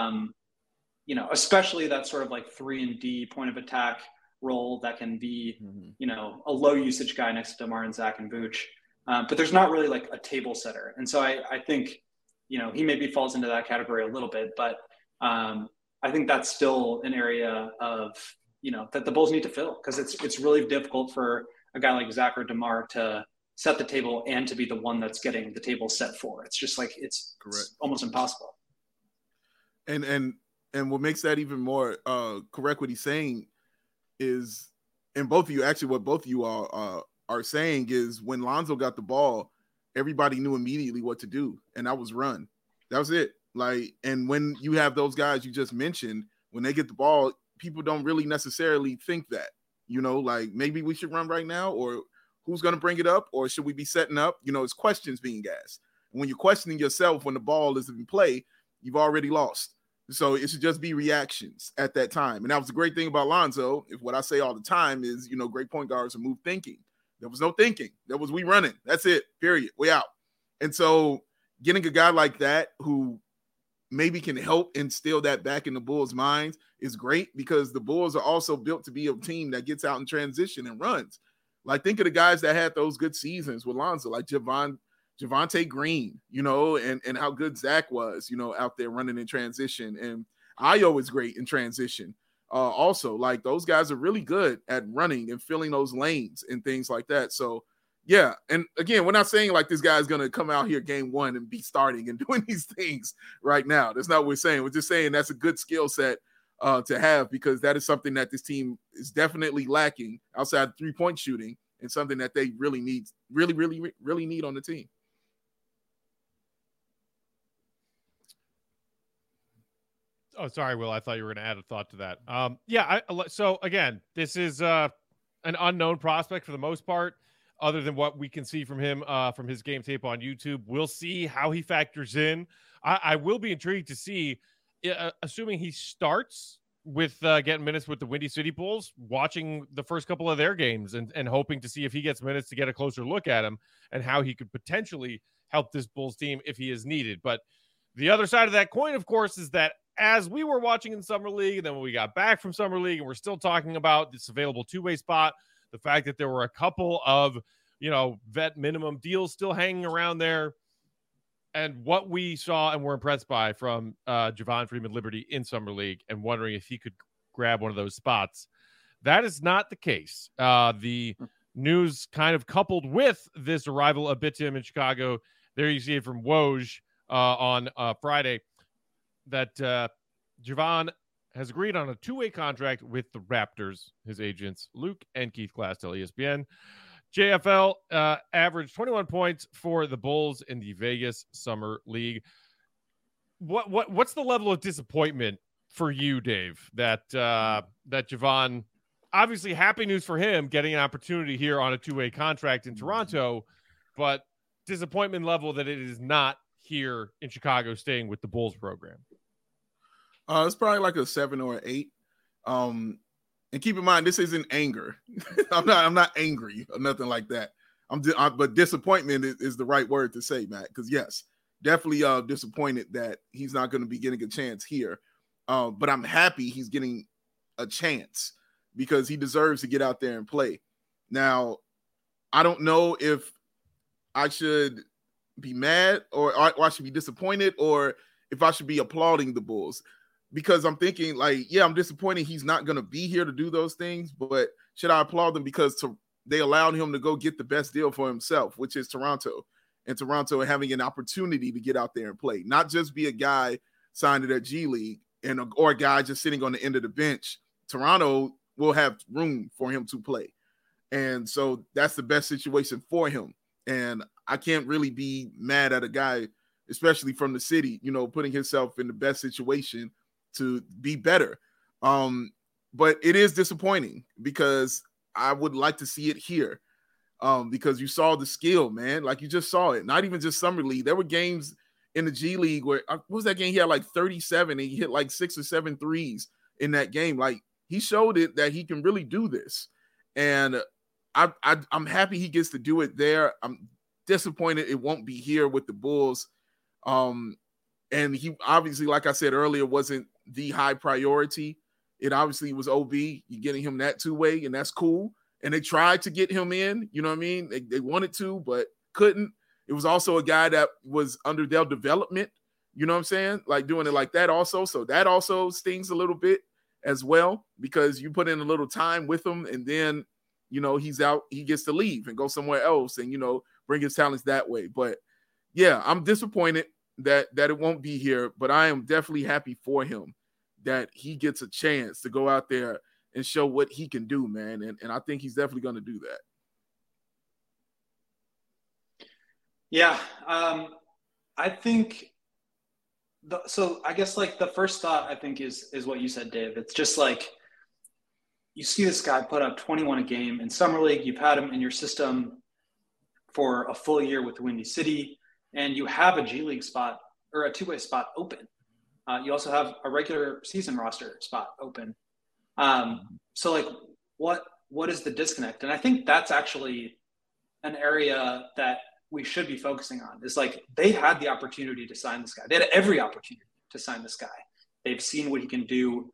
especially that sort of like 3-and-D point of attack role that can be, a low usage guy next to DeMar and Zach and Vooch. But there's not really like a table setter. And so I think, he maybe falls into that category a little bit, but I think that's still an area of, that the Bulls need to fill, because it's really difficult for a guy like Zach or DeMar to set the table and to be the one that's getting the table set for. It's just like, it's almost impossible. And what makes that even more correct, what he's saying is, and both of you, actually what both of you are saying is, when Lonzo got the ball, everybody knew immediately what to do, and that was run. That was it. Like, and when you have those guys you just mentioned, when they get the ball, people don't really necessarily think that, like maybe we should run right now, or who's going to bring it up, or should we be setting up? It's questions being asked. And when you're questioning yourself when the ball is in play, you've already lost. So it should just be reactions at that time. And that was the great thing about Lonzo. If what I say all the time is, great point guards are move thinking. There was no thinking. There was we running. That's it. Period. We out. And so getting a guy like that who maybe can help instill that back in the Bulls' minds is great, because the Bulls are also built to be a team that gets out in transition and runs. Like, think of the guys that had those good seasons with Lonzo, like Javonte Green, and how good Zach was, out there running in transition. And Ayo is great in transition. Also, like, those guys are really good at running and filling those lanes and things like that. So, yeah. And again, we're not saying like this guy's going to come out here game one and be starting and doing these things right now. That's not what we're saying. We're just saying that's a good skill set to have, because that is something that this team is definitely lacking outside 3-point shooting, and something that they really need on the team. Oh, sorry, Will. I thought you were going to add a thought to that. So again, this is an unknown prospect for the most part, other than what we can see from him from his game tape on YouTube. We'll see how he factors in. I will be intrigued to see, assuming he starts with getting minutes with the Windy City Bulls, watching the first couple of their games and hoping to see if he gets minutes to get a closer look at him and how he could potentially help this Bulls team if he is needed. But the other side of that coin, of course, is that as we were watching in Summer League, and then when we got back from Summer League and we're still talking about this available two-way spot, the fact that there were a couple of, vet minimum deals still hanging around there, and what we saw and were impressed by from Javon Freeman-Liberty in Summer League, and wondering if he could grab one of those spots. That is not the case. The news kind of coupled with this arrival a bit to him in Chicago. There you see it from Woj on Friday, that Javon has agreed on a two-way contract with the Raptors. His agents, Luke and Keith Glass, tell ESPN. JFL averaged 21 points for the Bulls in the Vegas Summer League. What's the level of disappointment for you, Dave, that Javon, obviously happy news for him getting an opportunity here on a two-way contract in Toronto, but disappointment level that it is not here in Chicago staying with the Bulls program? It's probably like a 7 or an 8. And keep in mind, this isn't anger. I'm not angry or nothing like that. But disappointment is the right word to say, Matt, because yes, definitely disappointed that he's not going to be getting a chance here. But I'm happy he's getting a chance, because he deserves to get out there and play. Now, I don't know if I should be mad or I should be disappointed, or if I should be applauding the Bulls, because I'm thinking like, yeah, I'm disappointed he's not going to be here to do those things, but should I applaud them because they allowed him to go get the best deal for himself, which is Toronto, and Toronto having an opportunity to get out there and play, not just be a guy signed to their G League or a guy just sitting on the end of the bench. Toronto will have room for him to play. And so that's the best situation for him. And I can't really be mad at a guy, especially from the city, putting himself in the best situation to be better. But it is disappointing, because I would like to see it here, because you saw the skill, man. Like, you just saw it. Not even just Summer League. There were games in the G League where, what was that game? He had like 37 and he hit like 6 or 7 threes in that game. Like, he showed it that he can really do this. And I'm happy he gets to do it there. I'm disappointed it won't be here with the Bulls. And he obviously, like I said earlier, wasn't the high priority. It obviously was OB. You're getting him that two-way, and that's cool. And they tried to get him in, you know what I mean? They wanted to, but couldn't. It was also a guy that was under their development, you know what I'm saying? Like, doing it like that also. So that also stings a little bit as well, because you put in a little time with him, and then, he's out, he gets to leave and go somewhere else and, bring his talents that way. But yeah, I'm disappointed that it won't be here, but I am definitely happy for him that he gets a chance to go out there and show what he can do, man. And I think he's definitely going to do that. Yeah. I think so I guess like the first thought I think is what you said, Dave. It's just like you see this guy put up 21 a game in Summer League. You've had him in your system for a full year with Windy City, and you have a G League spot or a two-way spot open. You also have a regular season roster spot open. So like what is the disconnect? And I think that's actually an area that we should be focusing on is like they had the opportunity to sign this guy. They had every opportunity to sign this guy. They've seen what he can do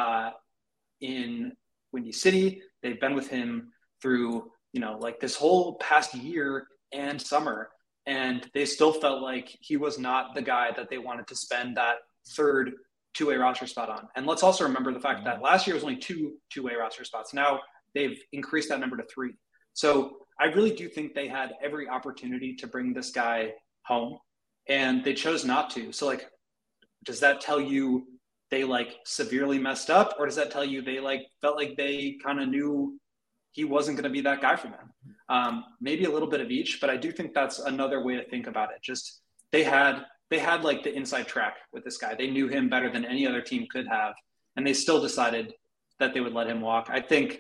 in Windy City. They've been with him through, like this whole past year and summer. And they still felt like he was not the guy that they wanted to spend that third two-way roster spot on. And let's also remember the fact that last year was only two-way roster spots. Now they've increased that number to 3. So I really do think they had every opportunity to bring this guy home, and they chose not to. So like, does that tell you they like severely messed up, or does that tell you they like felt like they kind of knew he wasn't going to be that guy for them? Maybe a little bit of each, but I do think that's another way to think about it. Just they had like the inside track with this guy. They knew him better than any other team could have, and they still decided that they would let him walk. I think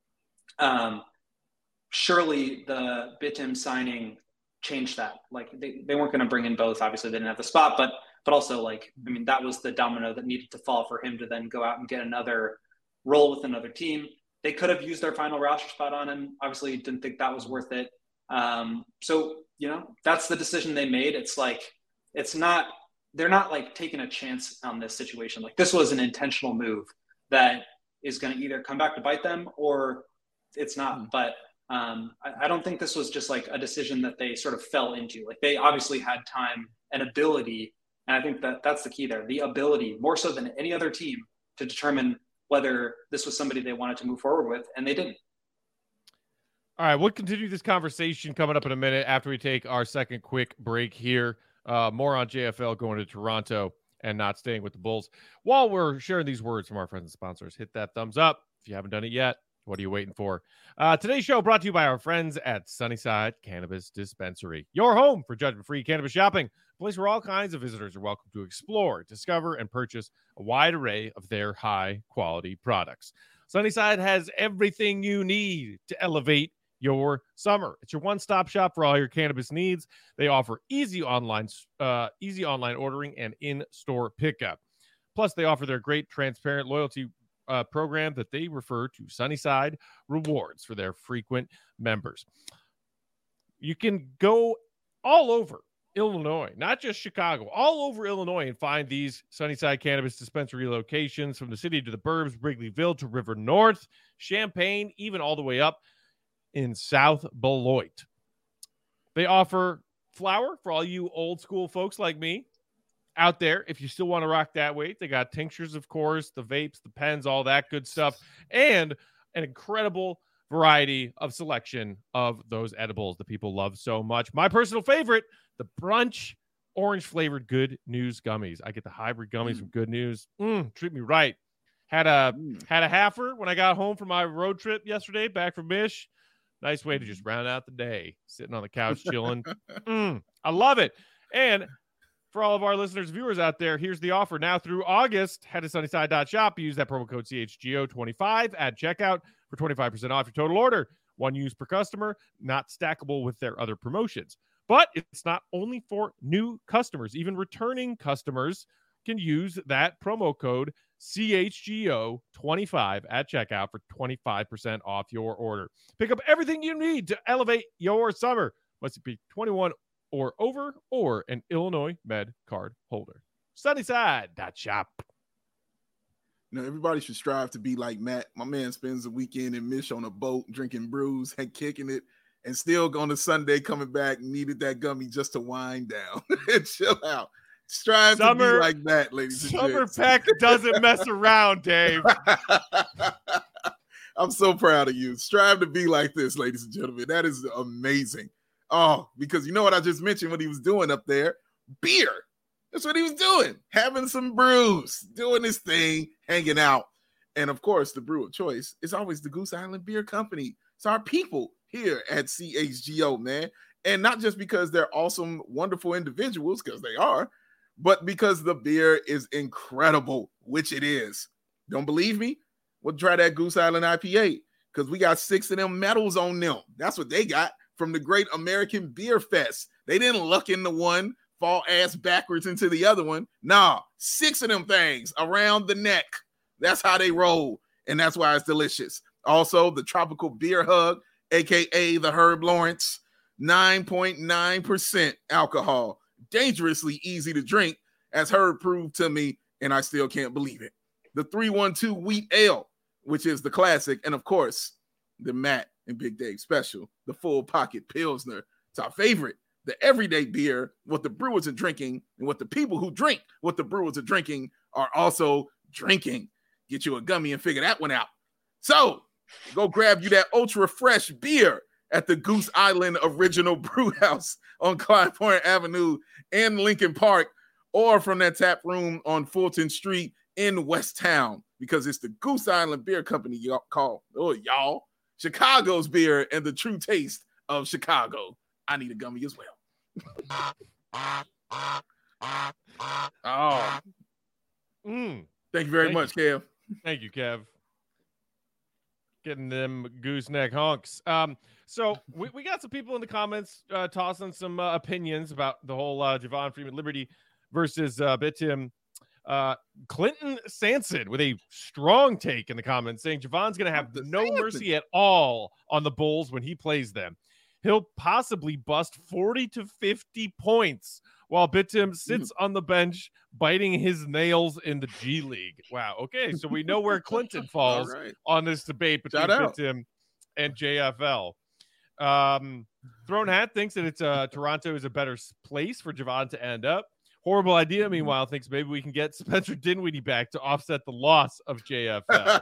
surely the Bitim signing changed that. Like they weren't going to bring in both. Obviously they didn't have the spot, but also like, I mean, that was the domino that needed to fall for him to then go out and get another role with another team. They could have used their final roster spot on him. Obviously didn't think that was worth it. So, that's the decision they made. It's like, they're not like taking a chance on this situation. Like this was an intentional move that is going to either come back to bite them or it's not. But I don't think this was just like a decision that they sort of fell into. Like they obviously had time and ability. And I think that's the key there, the ability more so than any other team to determine whether this was somebody they wanted to move forward with. And they didn't. All right. We'll continue this conversation coming up in a minute after we take our second quick break here. More on JFL going to Toronto and not staying with the Bulls. While we're sharing these words from our friends and sponsors, hit that thumbs up if you haven't done it yet. What are you waiting for? Today's show brought to you by our friends at Sunnyside Cannabis Dispensary, your home for judgment-free cannabis shopping, a place where all kinds of visitors are welcome to explore, discover, and purchase a wide array of their high-quality products. Sunnyside has everything you need to elevate your summer. It's your one-stop shop for all your cannabis needs. They offer easy online ordering and in-store pickup. Plus, they offer their great transparent loyalty program that they refer to Sunnyside Rewards for their frequent members. You can go all over Illinois, not just Chicago, all over Illinois and find these Sunnyside Cannabis Dispensary locations from the city to the burbs, Wrigleyville to River North, Champaign, even all the way up in South Beloit. They offer flower for all you old school folks like me out there. If you still want to rock that weight, they got tinctures, of course, the vapes, the pens, all that good stuff, and an incredible variety of selection of those edibles that people love so much. My personal favorite, the brunch orange flavored Good News gummies. I get the hybrid gummies from Good News. Treat me right. Had a halfer when I got home from my road trip yesterday back from Mish. Nice way to just round out the day, sitting on the couch chilling. I love it. And for all of our listeners, viewers out there, here's the offer. Now through August, head to sunnyside.shop. Use that promo code CHGO25 at checkout for 25% off your total order. One use per customer, not stackable with their other promotions. But it's not only for new customers. Even returning customers can use that promo code CHGO25 at checkout for 25% off your order. Pick up everything you need to elevate your summer. Must it be 21 or over, or an Illinois Med card holder. Sunnyside.shop. Everybody should strive to be like Matt. My man spends the weekend in Mish on a boat, drinking brews and kicking it, and still going to Sunday coming back, needed that gummy just to wind down and chill out. Strive to be like that, ladies and gentlemen. Summer Peck doesn't mess around, Dave. I'm so proud of you. Strive to be like this, ladies and gentlemen. That is amazing. Oh, because you know what I just mentioned what he was doing up there? Beer. That's what he was doing. Having some brews, doing his thing, hanging out. And of course, the brew of choice is always the Goose Island Beer Company. It's our people here at CHGO, man. And not just because they're awesome, wonderful individuals, because they are, but because the beer is incredible, which it is. Don't believe me? Well, try that Goose Island IPA, because we got 6 of them medals on them. That's what they got from the Great American Beer Fest. They didn't luck into one, fall ass backwards into the other one. Nah, 6 of them things around the neck. That's how they roll, and that's why it's delicious. Also, the Tropical Beer Hug, a.k.a. the Herb Lawrence, 9.9% alcohol. Dangerously easy to drink, as Herb proved to me, and I still can't believe it. The 312 Wheat Ale, which is the classic, and of course, the Matt and Big Dave special, the Full Pocket Pilsner. It's our favorite, the everyday beer, what the brewers are drinking, and what the people who drink what the brewers are drinking are also drinking. Get you a gummy and figure that one out. So, go grab you that ultra fresh beer at the Goose Island Original Brew House on Clyde Point Avenue in Lincoln Park, or from that tap room on Fulton Street in West Town, because it's the Goose Island Beer Company, y'all, Chicago's beer and the true taste of Chicago. I need a gummy as well. Oh. Thank you very much, Kev. Thank you, Kev. Getting them gooseneck honks. So we got some people in the comments tossing some opinions about the whole Javon Freeman Liberty versus Bitim. Clinton Sanson with a strong take in the comments saying Javon's going to have no mercy at all on the Bulls when he plays them. He'll possibly bust 40 to 50 points while Bitim sits on the bench biting his nails in the G League. Wow. Okay, so we know where Clinton falls on this debate between Bitim and JFL. Throne Hat thinks that it's Toronto is a better place for Javon to end up. Horrible idea, meanwhile, thinks maybe we can get Spencer Dinwiddie back to offset the loss of JFL.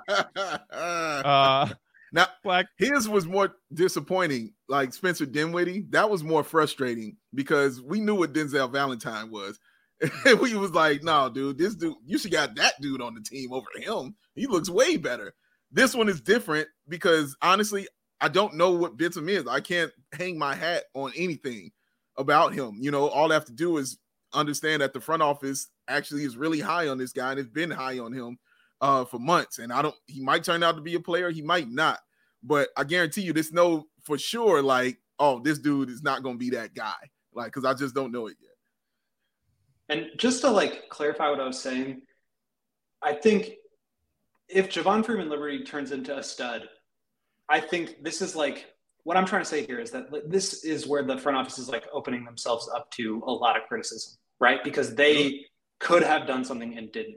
Now, his was more disappointing. Like Spencer Dinwiddie, that was more frustrating because we knew what Denzel Valentine was. We was like, no, dude, this dude, you should got that dude on the team over him. He looks way better. This one is different because, honestly, I don't know what Bitim is. I can't hang my hat on anything about him. You know, all I have to do is understand that the front office actually is really high on this guy and it's been high on him for months. And he might turn out to be a player. He might not, but I guarantee you this no for sure. Like, oh, this dude is not going to be that guy. Like, cause I just don't know it yet. And just to clarify what I was saying, I think if Javon Freeman Liberty turns into a stud, I think this is what I'm trying to say here is that this is where the front office is opening themselves up to a lot of criticism, right? Because they could have done something and didn't.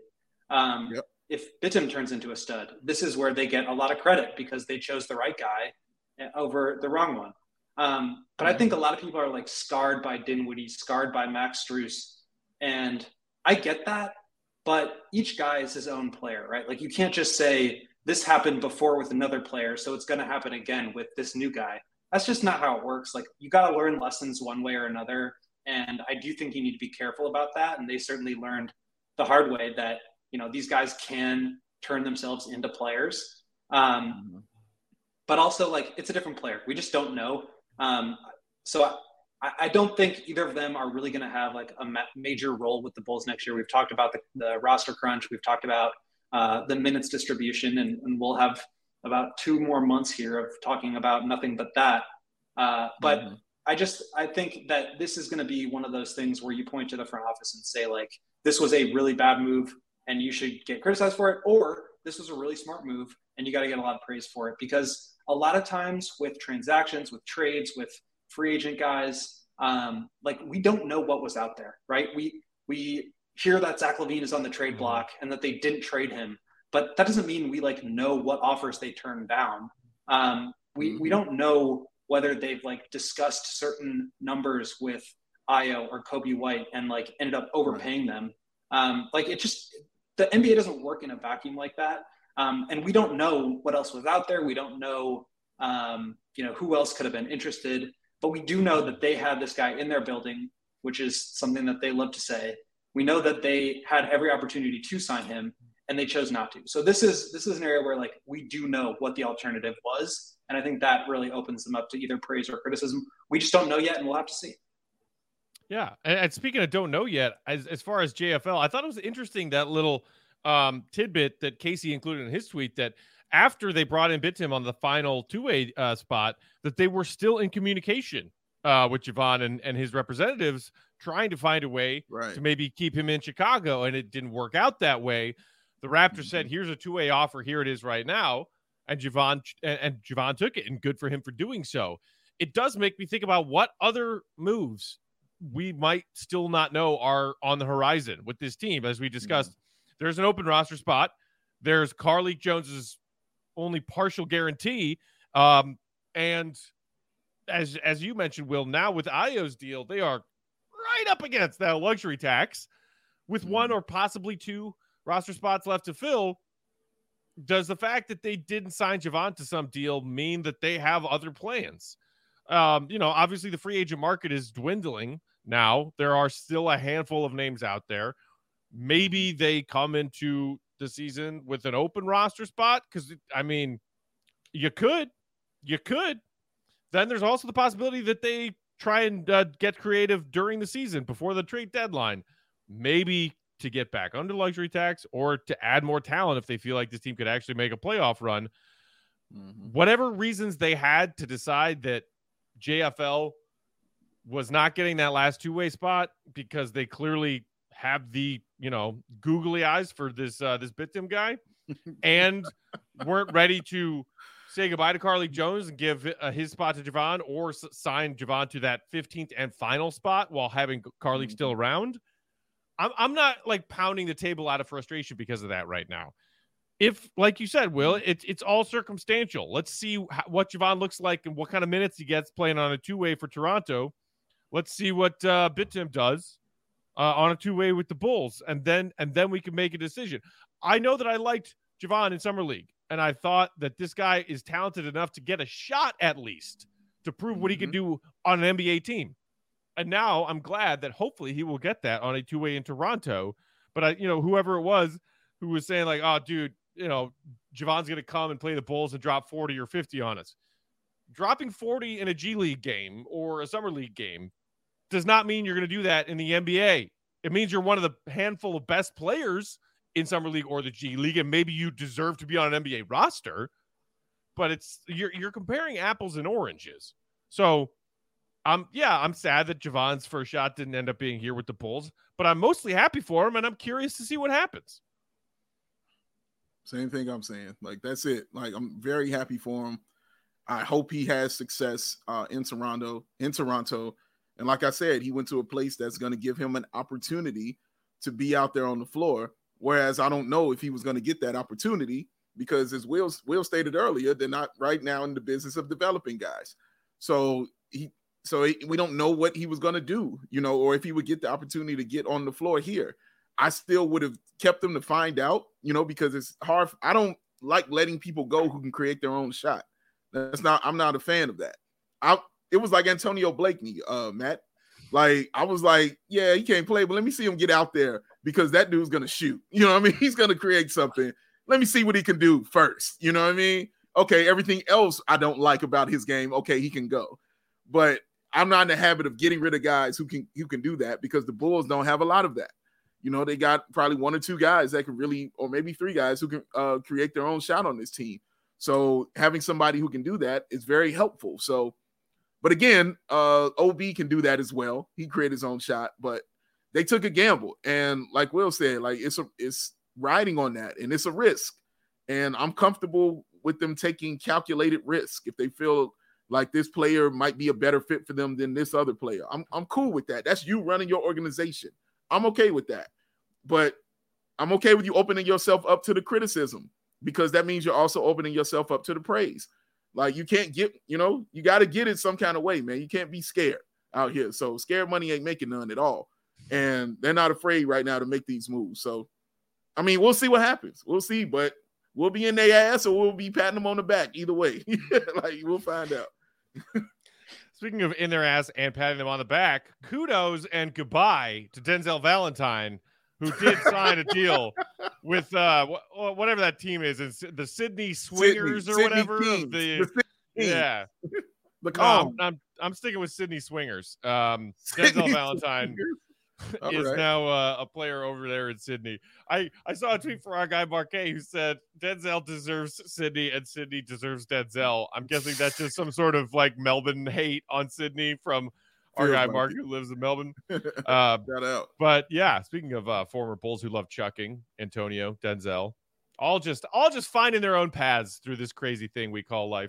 If Bitim turns into a stud, this is where they get a lot of credit because they chose the right guy over the wrong one. But I think a lot of people are scarred by Dinwiddie, scarred by Max Strus. And I get that, but each guy is his own player, right? You can't just say this happened before with another player, so it's going to happen again with this new guy. That's just not how it works. You got to learn lessons one way or another. And I do think you need to be careful about that. And they certainly learned the hard way that, these guys can turn themselves into players. But also it's a different player. We just don't know. So I don't think either of them are really going to have a major role with the Bulls next year. We've talked about the roster crunch. We've talked about the minutes distribution, and we'll have about 2 more months here of talking about nothing but that. But I think that this is going to be one of those things where you point to the front office and say this was a really bad move and you should get criticized for it, or this was a really smart move and you got to get a lot of praise for it. Because a lot of times with transactions, with trades, with free agent guys, we don't know what was out there, right? We hear that Zach LaVine is on the trade block and that they didn't trade him, but that doesn't mean we know what offers they turned down. We don't know whether they've discussed certain numbers with Ayo or Kobe White and ended up overpaying them. The NBA doesn't work in a vacuum like that. And we don't know what else was out there. We don't know, who else could have been interested, but we do know that they had this guy in their building, which is something that they love to say. We know that they had every opportunity to sign him. and they chose not to. So this is an area where like we do know what the alternative was, and I think that really opens them up to either praise or criticism. We just don't know yet, and we'll have to see. Yeah, and speaking of don't know yet, as far as JFL, I thought it was interesting that little tidbit that Casey included in his tweet that after they brought in Bitim on the final two-way spot, that they were still in communication with Javon and his representatives, trying to find a way to maybe keep him in Chicago, and it didn't work out that way. The Raptors said, "Here's a two-way offer. Here it is right now," and Javon took it, and good for him for doing so. It does make me think about what other moves we might still not know are on the horizon with this team. As we discussed, there's an open roster spot. There's Carlik Jones's only partial guarantee. And as you mentioned, Will, now with Ayo's deal, they are right up against that luxury tax with one or possibly two roster spots left to fill. Does the fact that they didn't sign Javon to some deal mean that they have other plans? Obviously the free agent market is dwindling now. There are still a handful of names out there. Maybe they come into the season with an open roster spot, because I mean, you could. Then there's also the possibility that they try and get creative during the season before the trade deadline, maybe to get back under luxury tax or to add more talent if they feel like this team could actually make a playoff run. Whatever reasons they had to decide that JFL was not getting that last two-way spot, because they clearly have the, googly eyes for this Bitim guy and weren't ready to say goodbye to Carlik Jones and give his spot to Javon, or sign Javon to that 15th and final spot while having Carlik still around. I'm not like pounding the table out of frustration because of that right now. If, like you said, Will, it's all circumstantial. Let's see what Javon looks like and what kind of minutes he gets playing on a two-way for Toronto. Let's see what Bitim does on a two-way with the Bulls, and then we can make a decision. I know that I liked Javon in Summer League, and I thought that this guy is talented enough to get a shot at least to prove what he can do on an NBA team. And now I'm glad that hopefully he will get that on a two-way in Toronto. But whoever it was who was saying like, "Oh, dude, Javon's going to come and play the Bulls and drop 40 or 50 on us." Dropping 40 in a G League game or a Summer League game does not mean you're going to do that in the NBA. It means you're one of the handful of best players in Summer League or the G League, and maybe you deserve to be on an NBA roster. But you're comparing apples and oranges. So I'm sad that Javon's first shot didn't end up being here with the Bulls, but I'm mostly happy for him, and I'm curious to see what happens. Same thing I'm saying. Like, that's it. Like, I'm very happy for him. I hope he has success in Toronto. And like I said, he went to a place that's going to give him an opportunity to be out there on the floor. Whereas I don't know if he was going to get that opportunity, because as Will stated earlier, they're not right now in the business of developing guys. So we don't know what he was going to do, or if he would get the opportunity to get on the floor here. I still would have kept him to find out, because it's hard. I don't like letting people go who can create their own shot. I'm not a fan of that. It was like Antonio Blakeney, Matt. Like, I was like, yeah, he can't play, but let me see him get out there, because that dude's going to shoot. You know what I mean? He's going to create something. Let me see what he can do first. You know what I mean? Okay, everything else I don't like about his game, okay, he can go. But I'm not in the habit of getting rid of guys who can do that, because the Bulls don't have a lot of that. They got probably one or two guys that can really, or maybe three guys who can create their own shot on this team. So having somebody who can do that is very helpful. So, but again, OB can do that as well. He created his own shot, but they took a gamble. And like Will said, like it's riding on that, and it's a risk. And I'm comfortable with them taking calculated risk if they feel like this player might be a better fit for them than this other player. I'm cool with that. That's you running your organization. I'm okay with that. But I'm okay with you opening yourself up to the criticism, because that means you're also opening yourself up to the praise. Like, you can't get, you got to get it some kind of way, man. You can't be scared out here. So scared money ain't making none at all. And they're not afraid right now to make these moves. So, I mean, we'll see what happens. We'll see, but we'll be in their ass or we'll be patting them on the back. Either way, like, we'll find out. Speaking of in their ass and patting them on the back, kudos and goodbye to Denzel Valentine who did sign a deal with whatever that team is, the Sydney Swingers or whatever. The yeah. No, I'm sticking with Sydney Swingers. Denzel Valentine is now a player over there in Sydney. I saw a tweet from our guy Marquet who said Denzel deserves Sydney and Sydney deserves Denzel. I'm guessing that's just some sort of like Melbourne hate on Sydney from our guy Mark who lives in Melbourne. Shout out. But yeah, speaking of former Bulls who love chucking, Antonio, Denzel, all just finding their own paths through this crazy thing we call life.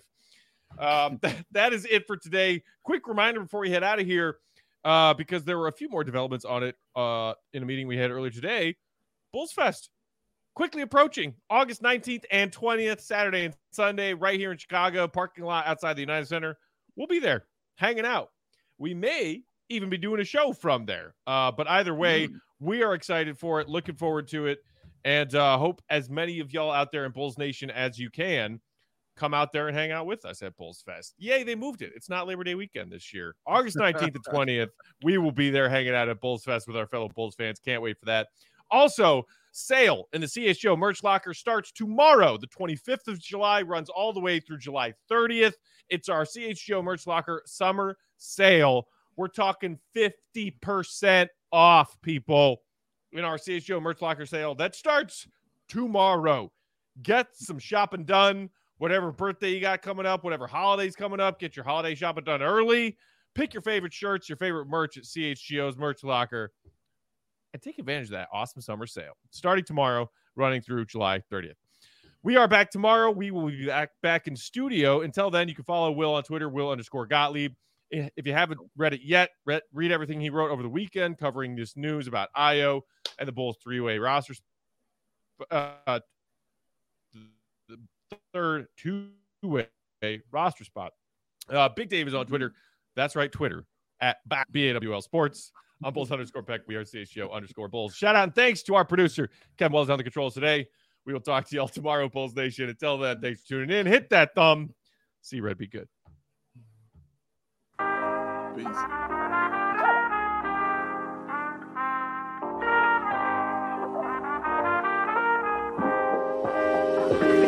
That is it for today. Quick reminder before we head out of here, because there were a few more developments on it in a meeting we had earlier today. Bulls Fest quickly approaching August 19th and 20th, Saturday and Sunday, right here in Chicago, parking lot outside the United Center. We'll be there hanging out. We may even be doing a show from there. But either way, we are excited for it, looking forward to it, and hope as many of y'all out there in Bulls Nation as you can come out there and hang out with us at Bulls Fest. Yay, they moved it. It's not Labor Day weekend this year. August 19th and 20th, we will be there hanging out at Bulls Fest with our fellow Bulls fans. Can't wait for that. Also, sale in the CHGO merch locker starts tomorrow, the 25th of July, runs all the way through July 30th. It's our CHGO merch locker summer sale. We're talking 50% off, people, in our CHGO merch locker sale. That starts tomorrow. Get some shopping done. Whatever birthday you got coming up, whatever holidays coming up, get your holiday shopping done early. Pick your favorite shirts, your favorite merch at CHGO's merch locker, and take advantage of that awesome summer sale. Starting tomorrow, running through July 30th. We are back tomorrow. We will be back in studio. Until then, you can follow Will on Twitter, Will_Gottlieb. If you haven't read it yet, read everything he wrote over the weekend covering this news about Ayo and the Bulls three-way rosters. Third two-way roster spot. Big Dave is on Twitter. That's right, Twitter at BAWL Sports. I'm Bulls_Peck. We are CHGO_Bulls. Shout out and thanks to our producer, Kevin Wells, on the controls today. We will talk to y'all tomorrow, Bulls Nation. Until then, thanks for tuning in. Hit that thumb. See Red be good. Peace.